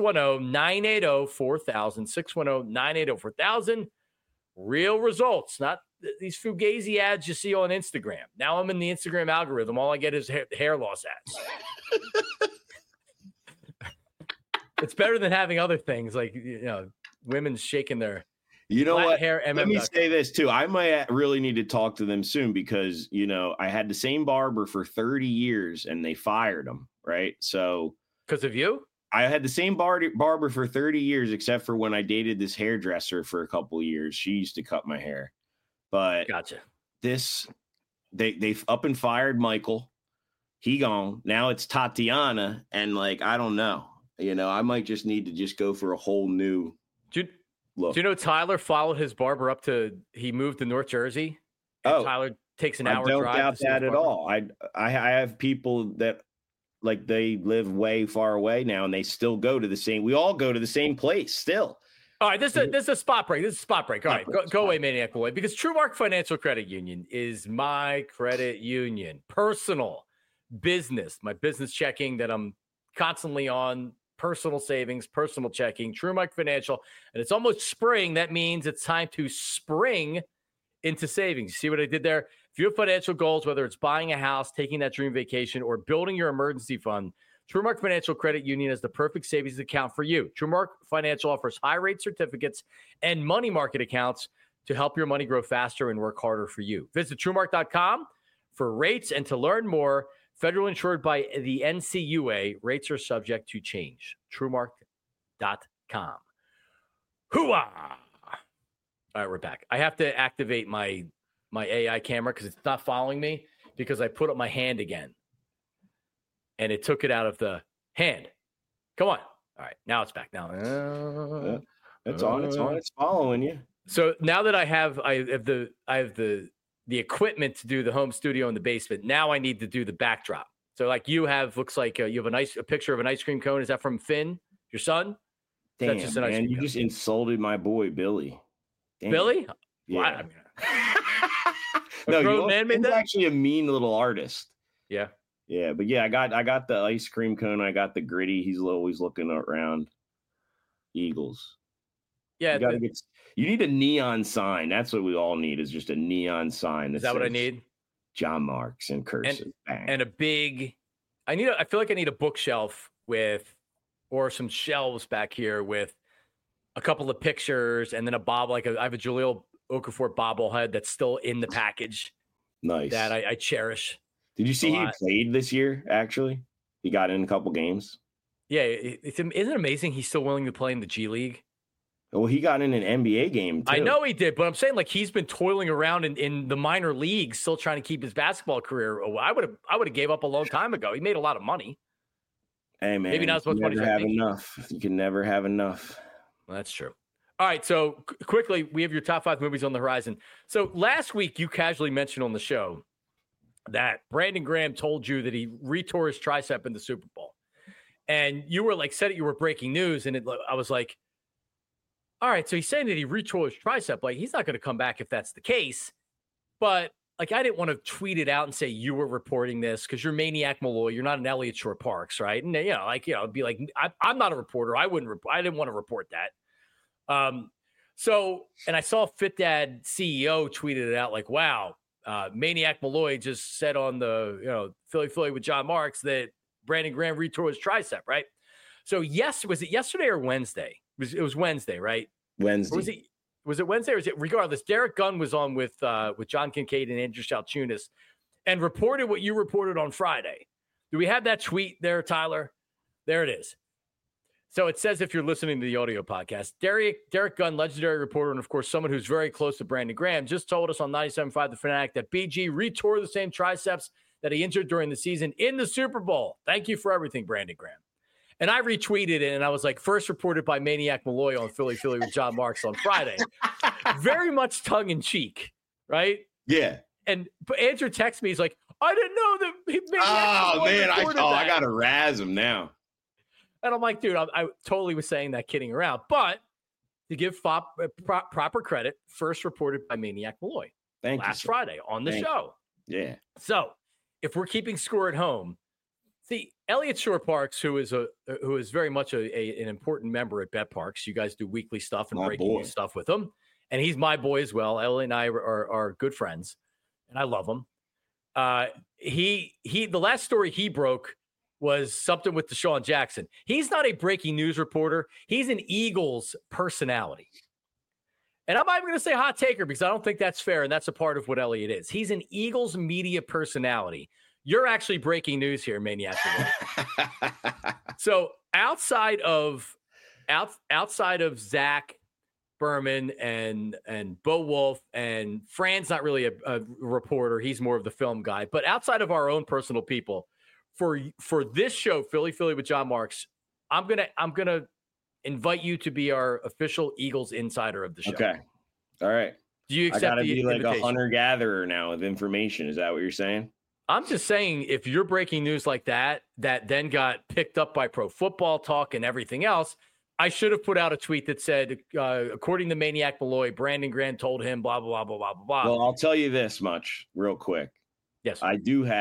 610-980-4000, 610-980-4000. Real results, not these Fugazi ads you see on Instagram. Now I'm in the Instagram algorithm. All I get is hair loss ads. It's better than having other things like, women shaking their what? Hair Let me say this too. I might really need to talk to them soon because, I had the same barber for 30 years and they fired him. Right. So because of you, I had the same barber for 30 years, except for when I dated this hairdresser for a couple of years. She used to cut my hair, but gotcha. They've up and fired Michael. He gone. Now it's Tatiana. And I don't know, I might just need to just go for a whole new look. Do you know Tyler followed his barber up he moved to North Jersey? And Tyler takes an hour drive. I don't doubt that at all. I have people that they live way far away now and they still go to we all go to the same place still. All right. This is a spot break. All right. Go away, Maniac Malloy, because TrueMark Financial Credit Union is my credit union, personal business, my business checking that I'm constantly on, personal savings, personal checking, TrueMark Financial. And it's almost spring. That means it's time to spring into savings. You see what I did there? If you have financial goals, whether it's buying a house, taking that dream vacation, or building your emergency fund, TrueMark Financial Credit Union is the perfect savings account for you. TrueMark Financial offers high-rate certificates and money market accounts to help your money grow faster and work harder for you. Visit TrueMark.com for rates and to learn more. Federal insured by the NCUA. Rates are subject to change. TrueMark.com. Hooah! All right, we're back. I have to activate my AI camera because it's not following me because I put up my hand again and it took it out of the hand. Come on. All right. Now it's back. Now it's on. It's following you. So now that I have the equipment to do the home studio in the basement, now I need to do the backdrop. So looks like you have a picture of an ice cream cone. Is that from Finn, your son? Damn, just man, you just insulted my boy, Billy. Damn. Billy? Yeah. No, he's actually a mean little artist. Yeah. Yeah, but yeah, I got the ice cream cone. I got the gritty. He's always looking around. Eagles. Yeah. You need a neon sign. That's what we all need, is just a neon sign. Is that what I need? John Marks and cursive. And a big, I feel like I need a bookshelf or some shelves back here with a couple of pictures and then a bob, I have a Jaleel Okafor bobblehead that's still in the package. Nice. That I cherish. Did you see he played this year, actually? He got in a couple games. Yeah. Isn't it amazing he's still willing to play in the G League? Well, he got in an NBA game too. I know he did, but I'm saying like he's been toiling around in the minor leagues, still trying to keep his basketball career. I would have gave up a long time ago. He made a lot of money. Hey man, maybe not as much money. You can never have enough. You can never have enough. Well, that's true. All right, so quickly, we have your top 5 movies on the horizon. So last week, you casually mentioned on the show that Brandon Graham told you that he retore his tricep in the Super Bowl, and you were like, said it, you were breaking news, and I was like, all right, so he's saying that he retore his tricep. Like, he's not going to come back if that's the case. But like, I didn't want to tweet it out and say you were reporting this because you're Maniac Malloy. You're not an Elliott Shore Parks, right? And it'd be like, I'm not a reporter. I didn't want to report that. And I saw Fit Dad CEO tweeted it out like, wow, Maniac Malloy just said on the, Philly with John Marks that Brandon Graham retore his tricep, right? So was it yesterday or Wednesday? It was Wednesday, right? Wednesday. Was it Wednesday or was it regardless? Derek Gunn was on with John Kincaid and Andrew Shalchunas and reported what you reported on Friday. Do we have that tweet there, Tyler? There it is. So it says, if you're listening to the audio podcast, Derek Gunn, legendary reporter, and of course, someone who's very close to Brandon Graham, just told us on 97.5 The Fanatic that BG retore the same triceps that he injured during the season in the Super Bowl. Thank you for everything, Brandon Graham. And I retweeted it, and I was like, first reported by Maniac Malloy on Philly with John Marks on Friday. Very much tongue-in-cheek, right? Yeah. But Andrew texts me, he's like, I didn't know that Maniac Malloy reported that. I got to razz him now. And I'm like, dude, I totally was saying that kidding around. But to give proper credit, first reported by Maniac Malloy last Friday on the show. Yeah. So if we're keeping score at home, see, Elliott Shore Parks, who is very much an important member at Bet Parks. You guys do weekly stuff and breaking news stuff with him. And he's my boy as well. Ellie and I are good friends, and I love him. The last story he broke was something with Deshaun Jackson. He's not a breaking news reporter. He's an Eagles personality. And I'm not even going to say hot taker because I don't think that's fair, and that's a part of what Elliott is. He's an Eagles media personality. You're actually breaking news here, Maniac. So outside of Zach Berman and Bo Wolf, and Fran's not really a reporter. He's more of the film guy. But outside of our own personal people, for this show, Philly with John Marks, I'm gonna invite you to be our official Eagles insider of the show. Okay. All right. Do you accept I gotta be like invitation? a hunter-gatherer now with information. Is that what you're saying? I'm just saying, if you're breaking news like that then got picked up by Pro Football Talk and everything else, I should have put out a tweet that said, according to Maniac Malloy, Brandon Graham told him blah, blah, blah, blah, blah, blah. Well, I'll tell you this much real quick. Yes. I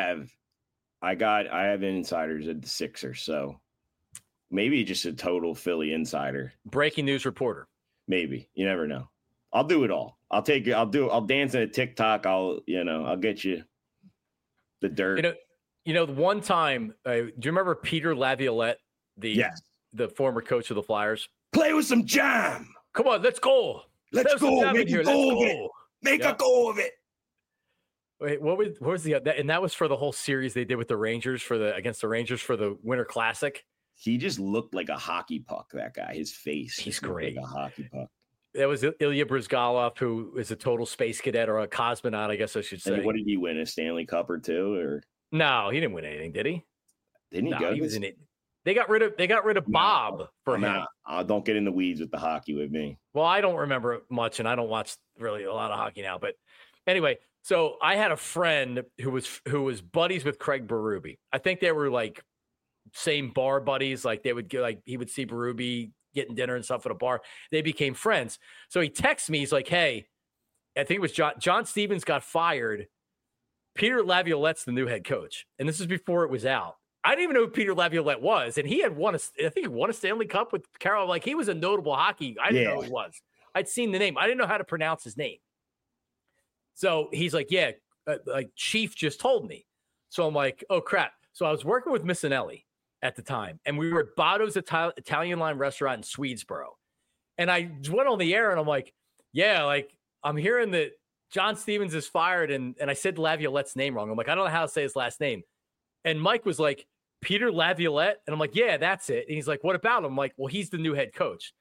have insiders at the Sixers, so maybe just a total Philly insider. Breaking news reporter. Maybe. You never know. I'll do it all. I'll dance in a TikTok. I'll get you the dirt. The one time, do you remember Peter Laviolette, the former coach of the Flyers? Play with some jam. Come on, let's go. Let's go. Make a go of it. Make a go of it. Wait, what was the and that was for the whole series they did with the Rangers against the Rangers for the Winter Classic? He just looked like a hockey puck, that guy. His face. He's great. Like a hockey puck. That was Ilya Bryzgalov, who is a total space cadet or a cosmonaut, I guess I should say. And what did he win? A Stanley Cup or two? Or no, he didn't win anything, did he? Didn't he go? He was in it. They got rid of Bob for him. Don't get in the weeds with the hockey with me. Well, I don't remember much, and I don't watch really a lot of hockey now. But anyway, so I had a friend who was buddies with Craig Berube. I think they were like same bar buddies. Like he would see Berube getting dinner and stuff at a bar. They became friends. So he texts me. He's like, "Hey, I think it was John Stevens got fired. Peter Laviolette's the new head coach." And this is before it was out. I didn't even know who Peter Laviolette was. And he had won a Stanley Cup with Carol. Like, he was a notable hockey. I didn't know who he was. I'd seen the name. I didn't know how to pronounce his name. So he's like, yeah, like Chief just told me. So I'm like, oh crap. So I was working with Missinelli at the time, and we were at Botto's Italian line restaurant in Swedesboro. And I went on the air and I'm like, yeah, like I'm hearing that John Stevens is fired. And I said Laviolette's name wrong. I'm like, I don't know how to say his last name. And Mike was like, Peter Laviolette? And I'm like, yeah, that's it. And he's like, what about him? I'm like, well, he's the new head coach.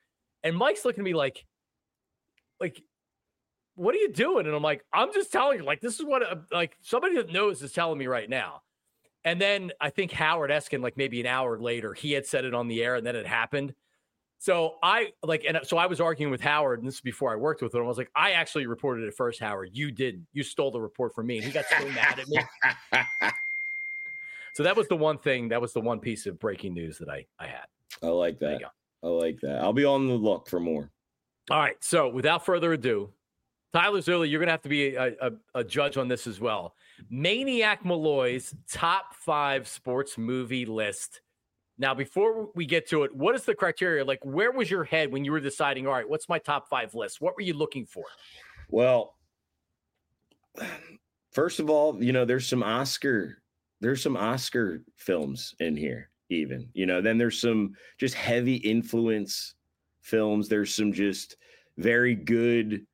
And Mike's looking at me like, what are you doing? And I'm like, I'm just telling you, like, this is what, like, somebody that knows is telling me right now. And then I think Howard Eskin, like maybe an hour later, he had said it on the air and then it happened. So I was arguing with Howard, and this is before I worked with him. I was like, I actually reported it first, Howard. You didn't. You stole the report from me. And he got so mad at me. So that was the one thing. That was the one piece of breaking news that I had. I like that. I like that. I'll be on the look for more. All right. So without further ado, Tyler Zerly, you're going to have to be a judge on this as well. Maniac Malloy's top 5 sports movie list. Now, before we get to it, what is the criteria? Like, where was your head when you were deciding, all right, what's my top 5 list? What were you looking for? Well, first of all, there's some Oscar films in here, even, then there's some just heavy influence films. There's some just very good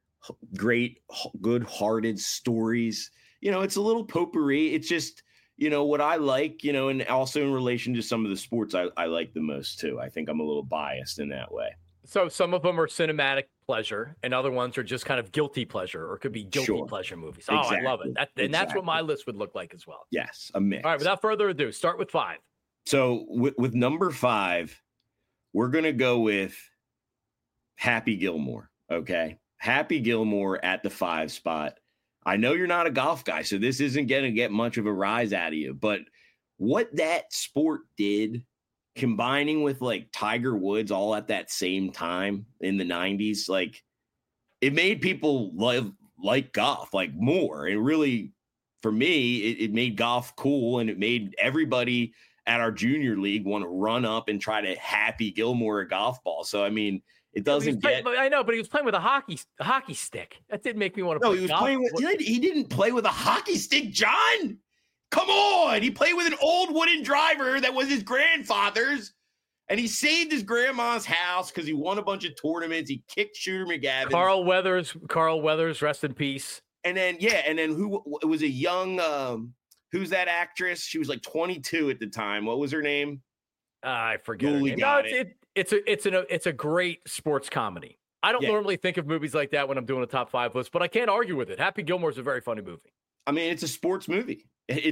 hearted stories. It's a little potpourri. It's just, what I like, and also in relation to some of the sports I like the most too. I think I'm a little biased in that way. So some of them are cinematic pleasure and other ones are just kind of guilty pleasure, or could be guilty pleasure movies. Oh, exactly. I love it. And that's what my list would look like as well. Yes, a mix. All right, without further ado, start with 5. So with number 5, we're going to go with Happy Gilmore. Okay. Happy Gilmore at the 5 spot. I know you're not a golf guy, so this isn't going to get much of a rise out of you, but what that sport did, combining with like Tiger Woods all at that same time in the 90s, like it made people like golf like more. And really, for me, it made golf cool, and it made everybody at our junior league want to run up and try to Happy Gilmore a golf ball. So, I mean, it doesn't get. I know, but he was playing with a hockey stick. That didn't make me want to. No, he was playing with. He didn't play with a hockey stick, John. Come on, he played with an old wooden driver that was his grandfather's, and he saved his grandma's house because he won a bunch of tournaments. He kicked Shooter McGavin. Carl Weathers, rest in peace. And then who it was a young. Who's that actress? She was like 22 at the time. What was her name? I forget. Her name. No, it's a great sports comedy. I don't normally think of movies like that when I'm doing a top 5 list, but I can't argue with it. Happy Gilmore is a very funny movie. I mean, it's a sports movie.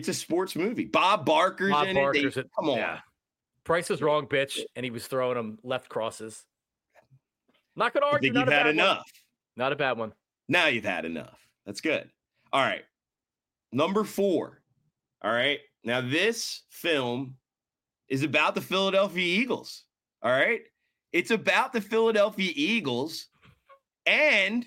Bob Barker's in it. Come on. Yeah. Price is Wrong, bitch, and he was throwing them left crosses. Not going to argue. I think you've had enough. Not a bad one. Now you've had enough. That's good. All right. Number 4. All right. Now this film is about the Philadelphia Eagles. All right. It's about the Philadelphia Eagles, and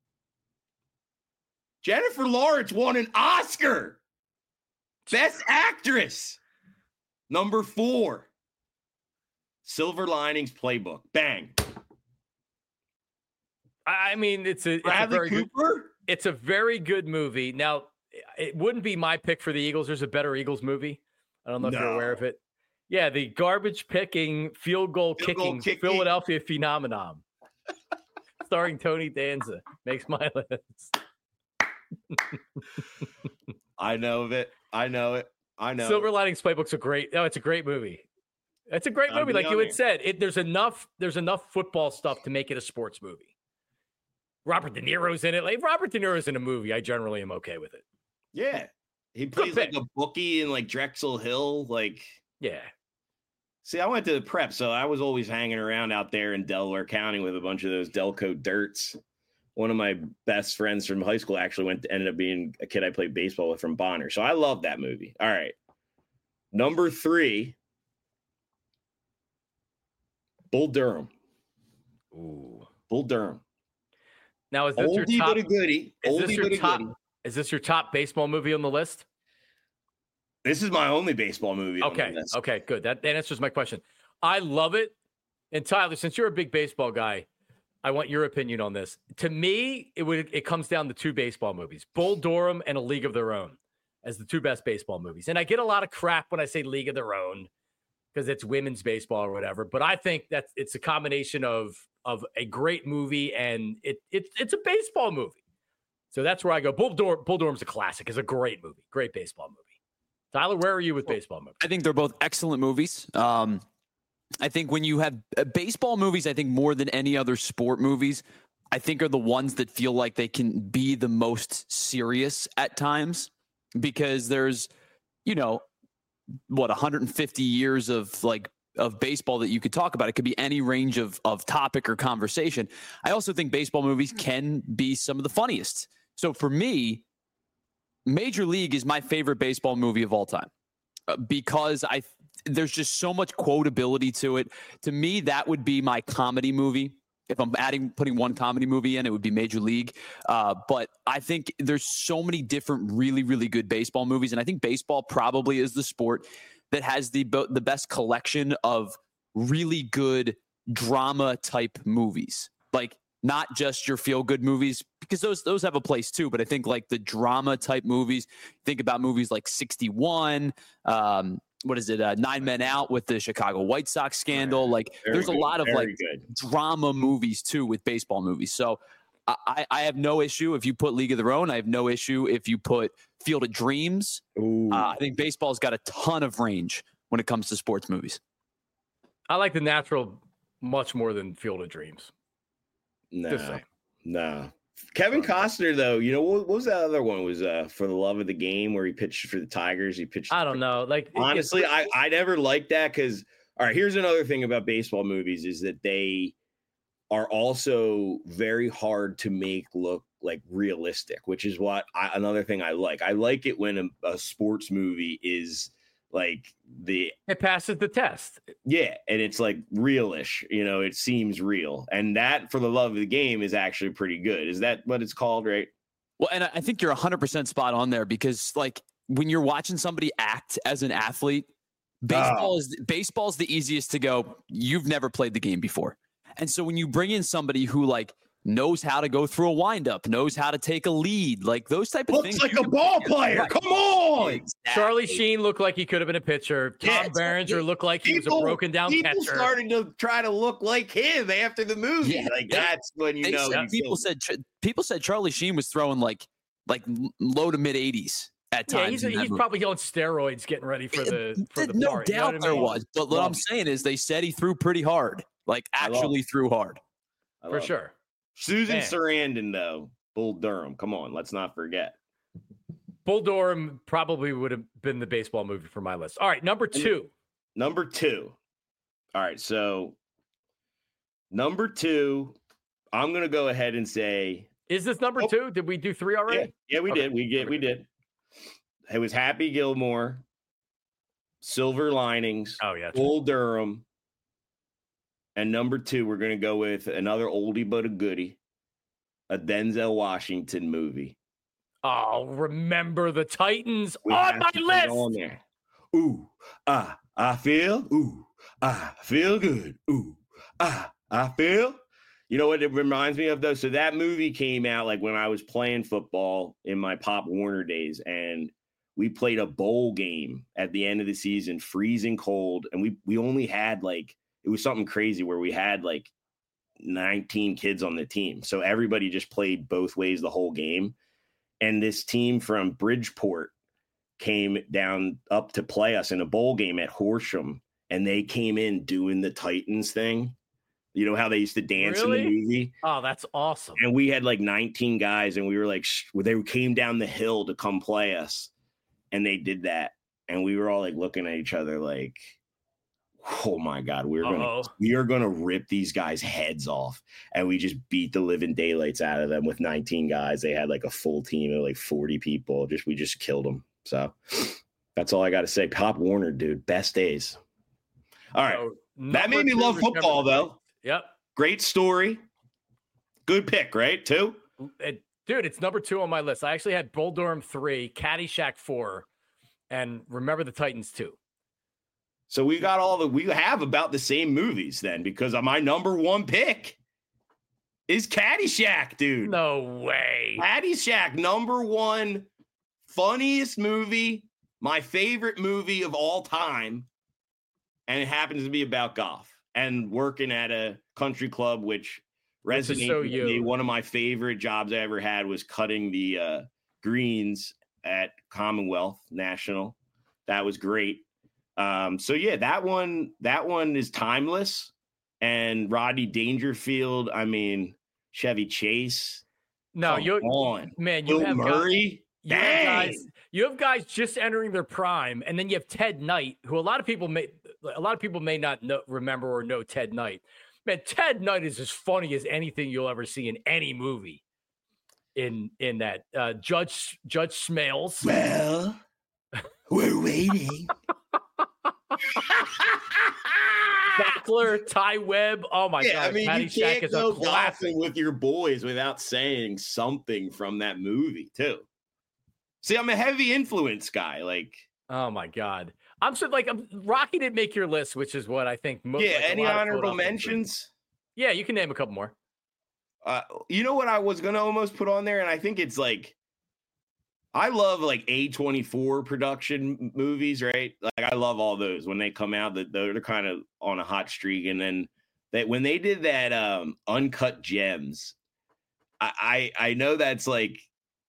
Jennifer Lawrence won an Oscar. Best Actress. Number 4. Silver Linings Playbook. Bang. I mean, it's a very good movie. Now, it wouldn't be my pick for the Eagles. There's a better Eagles movie. I don't know if you're aware of it. Yeah, the garbage picking, field goal kicking Philadelphia phenomenon. Starring Tony Danza. Makes my list. I know it. Silver Linings Playbook's it's a great movie. It's a great movie. Like you had said, there's enough football stuff to make it a sports movie. Robert De Niro's in it. Like, if Robert De Niro's in a movie, I generally am okay with it. Yeah. He plays like a bookie in like Drexel Hill. Like, yeah. See, I went to the prep, so I was always hanging around out there in Delaware County with a bunch of those Delco Dirts. One of my best friends from high school actually ended up being a kid I played baseball with from Bonner. So I love that movie. All right. Number 3, Bull Durham. Ooh. Bull Durham. Now, is this Oldie your top? But a goodie. Is this your top baseball movie on the list? This is my only baseball movie. Okay. Okay, good. That answers my question. I love it. And Tyler, since you're a big baseball guy, I want your opinion on this. To me, it comes down to 2 baseball movies, Bull Durham and A League of Their Own, as the 2 best baseball movies. And I get a lot of crap when I say League of Their Own because it's women's baseball or whatever. But I think that it's a combination of a great movie and it's a baseball movie. So that's where I go. Bull Durham's a classic. It's a great movie, great baseball movie. Tyler, where are you with baseball movies? I think they're both excellent movies. I think when you have baseball movies, I think more than any other sport movies, I think are the ones that feel like they can be the most serious at times because there's, 150 years of baseball that you could talk about. It could be any range of topic or conversation. I also think baseball movies can be some of the funniest. So for me, Major League is my favorite baseball movie of all time because there's just so much quotability to it. To me, that would be my comedy movie. If I'm putting one comedy movie in, it would be Major League. But I think there's so many different really, really good baseball movies. And I think baseball probably is the sport that has the best collection of really good drama type movies. Like not just your feel good movies, because those have a place too. But I think like the drama type movies, think about movies like 61, what is it? 9 Men Out with the Chicago White Sox scandal. Like there's a lot of drama movies too with baseball movies. So I have no issue if you put League of Their Own. I have no issue if you put Field of Dreams. I think baseball's got a ton of range when it comes to sports movies. I like The Natural much more than Field of Dreams. No. Kevin Costner, though, what was that other one? Was For the Love of the Game where he pitched for the Tigers? He pitched. I don't know. Like honestly, I never liked that because. All right, here's another thing about baseball movies is that they are also very hard to make look like realistic, which is another thing I like. I like it when a sports movie is like it passes the test. Yeah, and it's like realish, it seems real. And that For the Love of the Game is actually pretty good. Is that what it's called, right? Well, and I think you're 100% spot on there because like when you're watching somebody act as an athlete, baseball's the easiest to go, you've never played the game before. And so when you bring in somebody who like knows how to go through a windup, knows how to take a lead, like those type of things. Looks like a ball player. Right. Come on. Exactly. Charlie Sheen looked like he could have been a pitcher. Tom Berenger looked like he was a broken down catcher. People started to try to look like him after the movie. Yeah. That's when people said Charlie Sheen was throwing like low to mid 80s. At times, he's probably on steroids getting ready for the no part. doubt there was. But what I'm saying is they said he threw pretty hard, like actually threw hard. For sure. Susan Sarandon, though, Bull Durham. Come on, let's not forget. Bull Durham probably would have been the baseball movie for my list. All right, number two. All right, so number two, I'm going to go ahead and say. Is this number two? Did we do three already? Yeah, we did. We did. It was Happy Gilmore, Silver Linings, Bull Durham, and number two, we're going to go with another oldie but a goodie, a Denzel Washington movie. Oh, Remember the Titans on my list. On there. I feel good. I feel. You know what it reminds me of, though? So that movie came out like when I was playing football in my Pop Warner days, and we played a bowl game at the end of the season, freezing cold. And we only had it was something crazy where we had 19 kids on the team. So everybody just played both ways the whole game. And this team from Bridgeport came down up to play us in a bowl game at Horsham. And they came in doing the Titans thing. You know how they used to dance in the movie? Oh, that's awesome. And we had 19 guys and we were they came down the hill to come play us. And they did that, and we were all looking at each other like, "Oh my God, we are gonna rip these guys' heads off!" And we just beat the living daylights out of them with 19 guys. They had a full team of 40 people. We just killed them. So that's all I got to say. Pop Warner, dude, best days. All right, that made me love football, though. Yep, great story. Good pick, right? Two. Dude, it's number two on my list. I actually had Bull Durham 3, Caddyshack 4, and Remember the Titans 2. So we have about the same movies then, because my number one pick is Caddyshack, dude. No way. Caddyshack, number one, funniest movie, my favorite movie of all time, and it happens to be about golf and working at a country club, which resonated with me. One of my favorite jobs I ever had was cutting the greens at Commonwealth National. That was great. So yeah, that one is timeless. And Rodney Dangerfield, I mean, Chevy Chase. No, Come you on, man, you Bill have Murray. You have guys just entering their prime, and then you have Ted Knight, who a lot of people may not remember or know Ted Knight. Man, Ted Knight is as funny as anything you'll ever see in any movie. In that Judge Smales. Well, we're waiting. Sackler, Ty Webb. Oh my God! I mean, Patty you Shack can't is go a classic. golfing with your boys without saying something from that movie too. See, I'm a heavy influence guy. Like, oh my God, Rocky didn't make your list, which is what I think. Any honorable mentions? Yeah, you can name a couple more. You know what I was gonna almost put on there, and I think it's like, I love like A24 production movies, right? Like I love all those when they come out. That they're kind of on a hot streak, and then when they did that Uncut Gems, I know that's like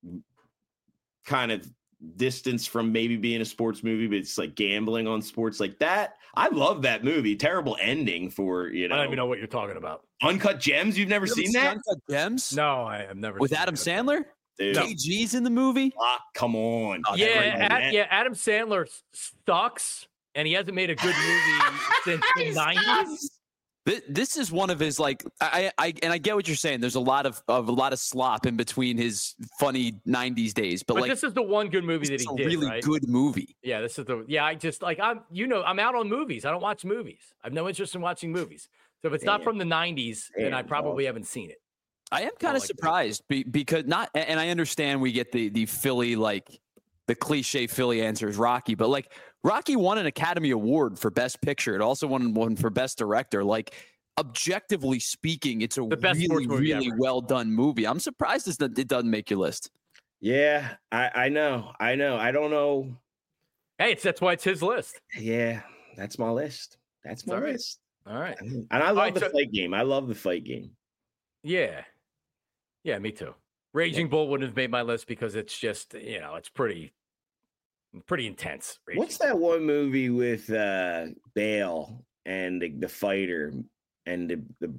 kind of distance from maybe being a sports movie, but it's like gambling on sports like that. I love that movie. Terrible ending for, I don't even know what you're talking about. Uncut Gems. You've never seen that? Uncut Gems? No, I have never. With Adam Sandler? Dude. KG's in the movie? Come on. Adam Sandler sucks, and he hasn't made a good movie since the 90s. This is one of his, like, I get what you're saying. There's a lot of slop in between his funny 90s days, but like, this is the one good movie that he did. Really right? good movie. Yeah, this is I just like I'm out on movies. I don't watch movies. I have no interest in watching movies. So if it's not from the 90s, then I probably haven't seen it. I am kind of surprised because and I understand we get the Philly, like the cliche Philly answer is Rocky, but like Rocky won an Academy Award for Best Picture. It also won one for Best Director. Like, objectively speaking, it's a really well done movie. I'm surprised it doesn't make your list. Yeah, I know. I don't know. Hey, that's why it's his list. Yeah, that's my list. That's my list. All right. And I love the fight game. I love the fight game. Yeah. Yeah, me too. Raging Bull wouldn't have made my list because it's just, it's pretty intense. What's that one movie with Bale and the fighter and the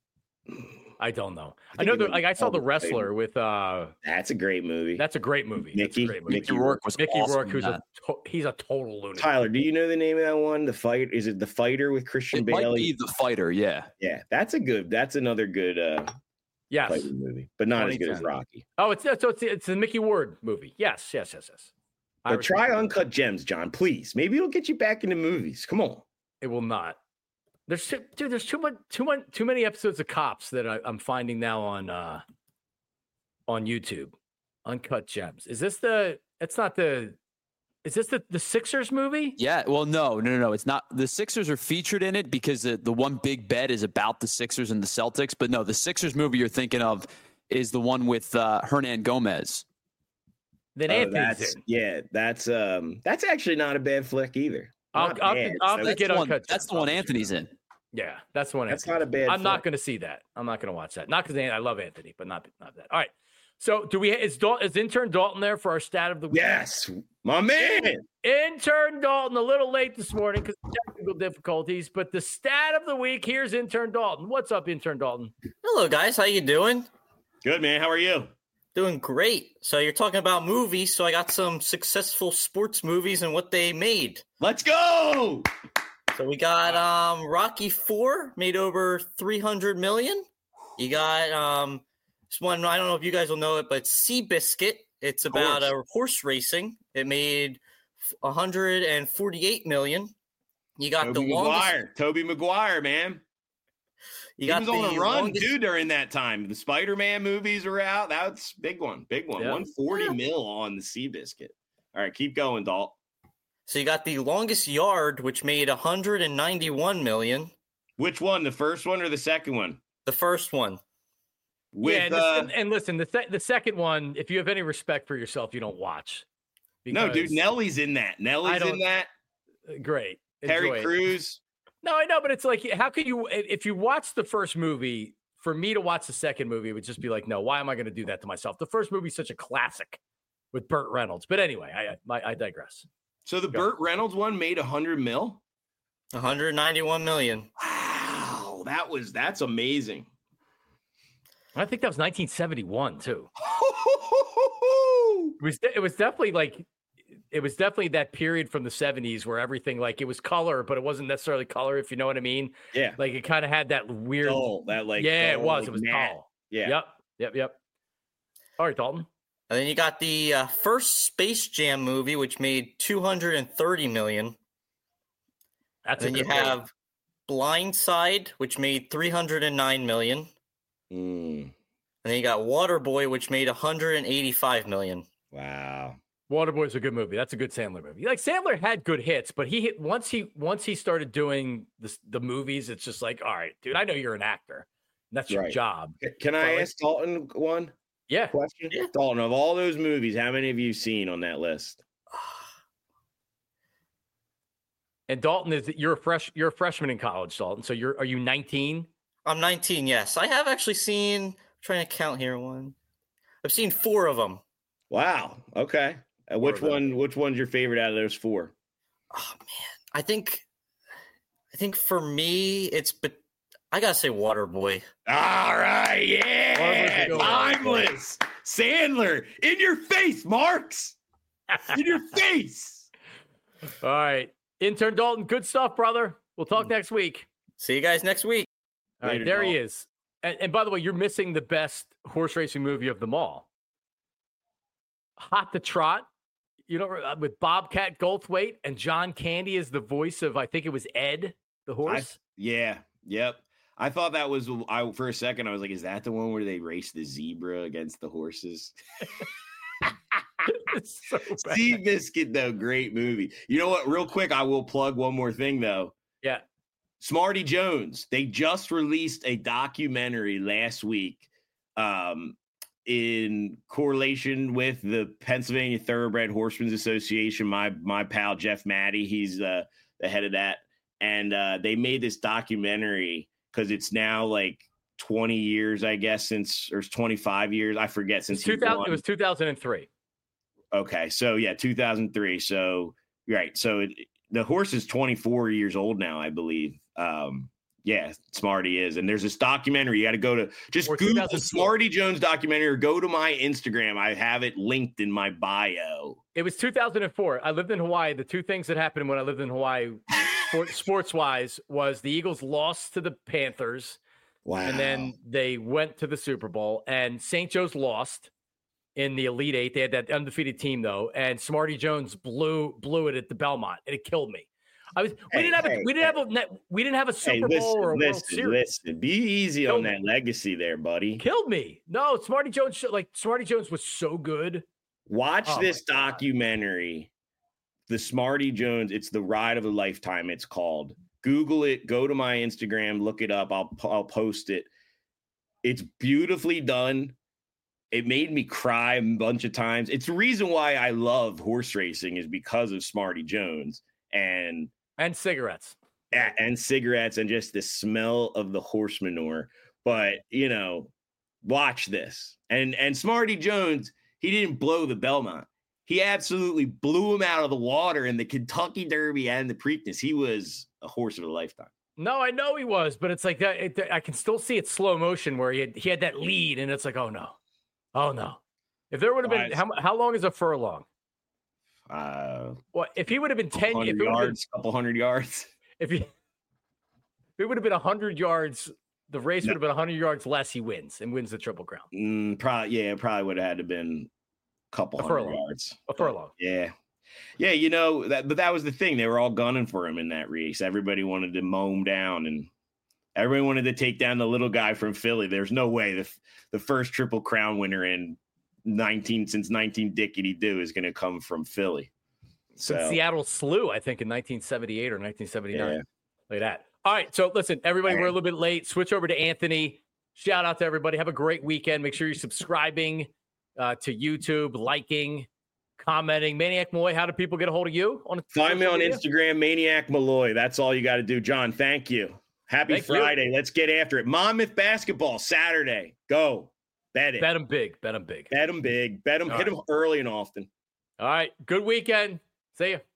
I don't know. I know that, like, I saw The Wrestler with that's a great movie. That's a great movie. Mickey Rourke was Mickey awesome, Rourke, he's a total lunatic. Tyler, do you know the name of that one? Is it The Fighter with Christian Bale? Might be The Fighter, yeah. Yeah, that's another good fighting movie, but not as good as Rocky. Oh, it's a Mickey Ward movie. Yes. But try Uncut Gems, John, please. Maybe it'll get you back into movies. Come on. It will not. There's too many episodes of Cops that I'm finding now on YouTube. Uncut Gems. Is this the Sixers movie? Yeah. Well, no. It's not. The Sixers are featured in it because the one big bet is about the Sixers and the Celtics. But no, the Sixers movie you're thinking of is the one with Hernan Gomez. Then Anthony's in. Yeah, that's actually not a bad flick either. I'll have to get Uncut Gems. That's the one Anthony's in. Yeah, that's the one. That's not a bad. I'm not going to see that. I'm not going to watch that. Not because I love Anthony, but not that. All right. So is intern Dalton there for our stat of the week? Yes, my man. Intern Dalton, a little late this morning because of technical difficulties, but the stat of the week, here's intern Dalton. What's up, intern Dalton? Hello, guys. How you doing? Good, man. How are you? Doing great. So you're talking about movies, so I got some successful sports movies and what they made. Let's go. So we got Rocky IV, made over $300 million. You got this one, I don't know if you guys will know it, but Seabiscuit. It's about horse racing. It made $148 million. You got Tobey Maguire, man. He was on a run, too, during that time. The Spider-Man movies were out. That's big one. Yep. 140 mil on the Seabiscuit. All right, keep going, Dalt. So you got The Longest Yard, which made $191 million. Which one, the first one or the second one? The first one. Listen, the second one, if you have any respect for yourself, you don't watch. No, dude, Nellie's in that. Great. Terry Crews. No, I know, but it's like, how could you, if you watch the first movie, for me to watch the second movie, it would just be like, no, why am I going to do that to myself? The first movie is such a classic with Burt Reynolds. But anyway, I digress. So the Burt Reynolds one made $100 million? 191 million. Wow, that's amazing. I think that was 1971 too. It was definitely that period from the 70s where everything, like, it was color, but it wasn't necessarily color, if you know what I mean. Yeah. Like, it kind of had that weird dull, that like yeah, dull, it was. like It was matte. tall. Yeah. Yep. All right, Dalton. And then you got the first Space Jam movie, which made 230 million. That's and then you have Blindside, which made 309 million. And then you got Waterboy, which made 185 million. Wow. Waterboy's a good movie. That's a good Sandler movie. Like, Sandler had good hits, but he hit once he started doing the movies, it's just like, all right, dude, I know you're an actor. That's your job. Can I ask Dalton one? Yeah. Question? Yeah. Dalton, of all those movies, how many have you seen on that list? And Dalton, you're a freshman in college, Dalton. So are you 19? I'm 19, yes. I have actually seen, I'm trying to count here I've seen 4 of them. Wow. Okay. Which one's your favorite out of those 4? Oh man. I think for me but I gotta say Waterboy. All right, yeah, timeless. Sandler, in your face, Marks. In your face. All right. Intern Dalton, good stuff, brother. We'll talk next week. See you guys next week. All right, there he is. And by the way, you're missing the best horse racing movie of them all. Hot to Trot, with Bobcat Goldthwait and John Candy as the voice of, I think it was Ed, the horse. Yep. I thought that was, for a second, I was like, is that the one where they race the zebra against the horses? It's so bad. Seabiscuit, though, great movie. You know what? Real quick, I will plug one more thing, though. Yeah. Smarty Jones. They just released a documentary last week in correlation with the Pennsylvania Thoroughbred Horsemen's Association. My pal, Jeff Maddie, he's the head of that. And they made this documentary because it's now like 20 years, I guess, or 25 years. I forget. Since 2000, it was 2003. Okay. So, yeah, 2003. So, right. So the horse is 24 years old now, I believe. Yeah, Smarty is. And there's this documentary. You got to go to Google Smarty Jones documentary or go to my Instagram. I have it linked in my bio. It was 2004. I lived in Hawaii. The 2 things that happened when I lived in Hawaii sports-wise was the Eagles lost to the Panthers. Wow. And then they went to the Super Bowl, and St. Joe's lost in the Elite Eight. They had that undefeated team, though, and Smarty Jones blew it at the Belmont, and it killed me. We didn't have a Super Bowl or a World Series. Listen, be easy on that legacy there, buddy. Killed me. No, Smarty Jones was so good. Watch this documentary, the Smarty Jones. It's the ride of a lifetime. It's called. Google it. Go to my Instagram. Look it up. I'll post it. It's beautifully done. It made me cry a bunch of times. It's the reason why I love horse racing is because of Smarty Jones and cigarettes. And cigarettes and just the smell of the horse manure. But, watch this. And Smarty Jones, he didn't blow the Belmont. He absolutely blew him out of the water in the Kentucky Derby and the Preakness. He was a horse of a lifetime. No, I know he was, but it's like that. I can still see it slow motion where he had that lead, and it's like, oh no. If there would have been, how long is a furlong? If he would have been 10 yards, couple hundred yards. If it would have been 100 yards, the race would have been 100 yards less. He wins the Triple Crown. It probably would have had to been a couple hundred yards. A furlong. Yeah. But that was the thing. They were all gunning for him in that race. Everybody wanted to mow him down, and everybody wanted to take down the little guy from Philly. There's no way the first Triple Crown winner since 19 Dickety Doo is going to come from Philly. So Seattle Slew, I think, in 1978 or 1979. Yeah. Like that. All right. So listen, everybody, we're a little bit late. Switch over to Anthony. Shout out to everybody. Have a great weekend. Make sure you're subscribing to YouTube, liking, commenting. Maniac Malloy, how do people get a hold of you? Find me on Instagram, Maniac Malloy. That's all you got to do. John, thank you. Happy Friday. Let's get after it. Monmouth basketball Saturday. Go. Bet it. Bet them big. Bet them big. Bet them big. Bet them. Hit them early and often. All right. Good weekend. See ya.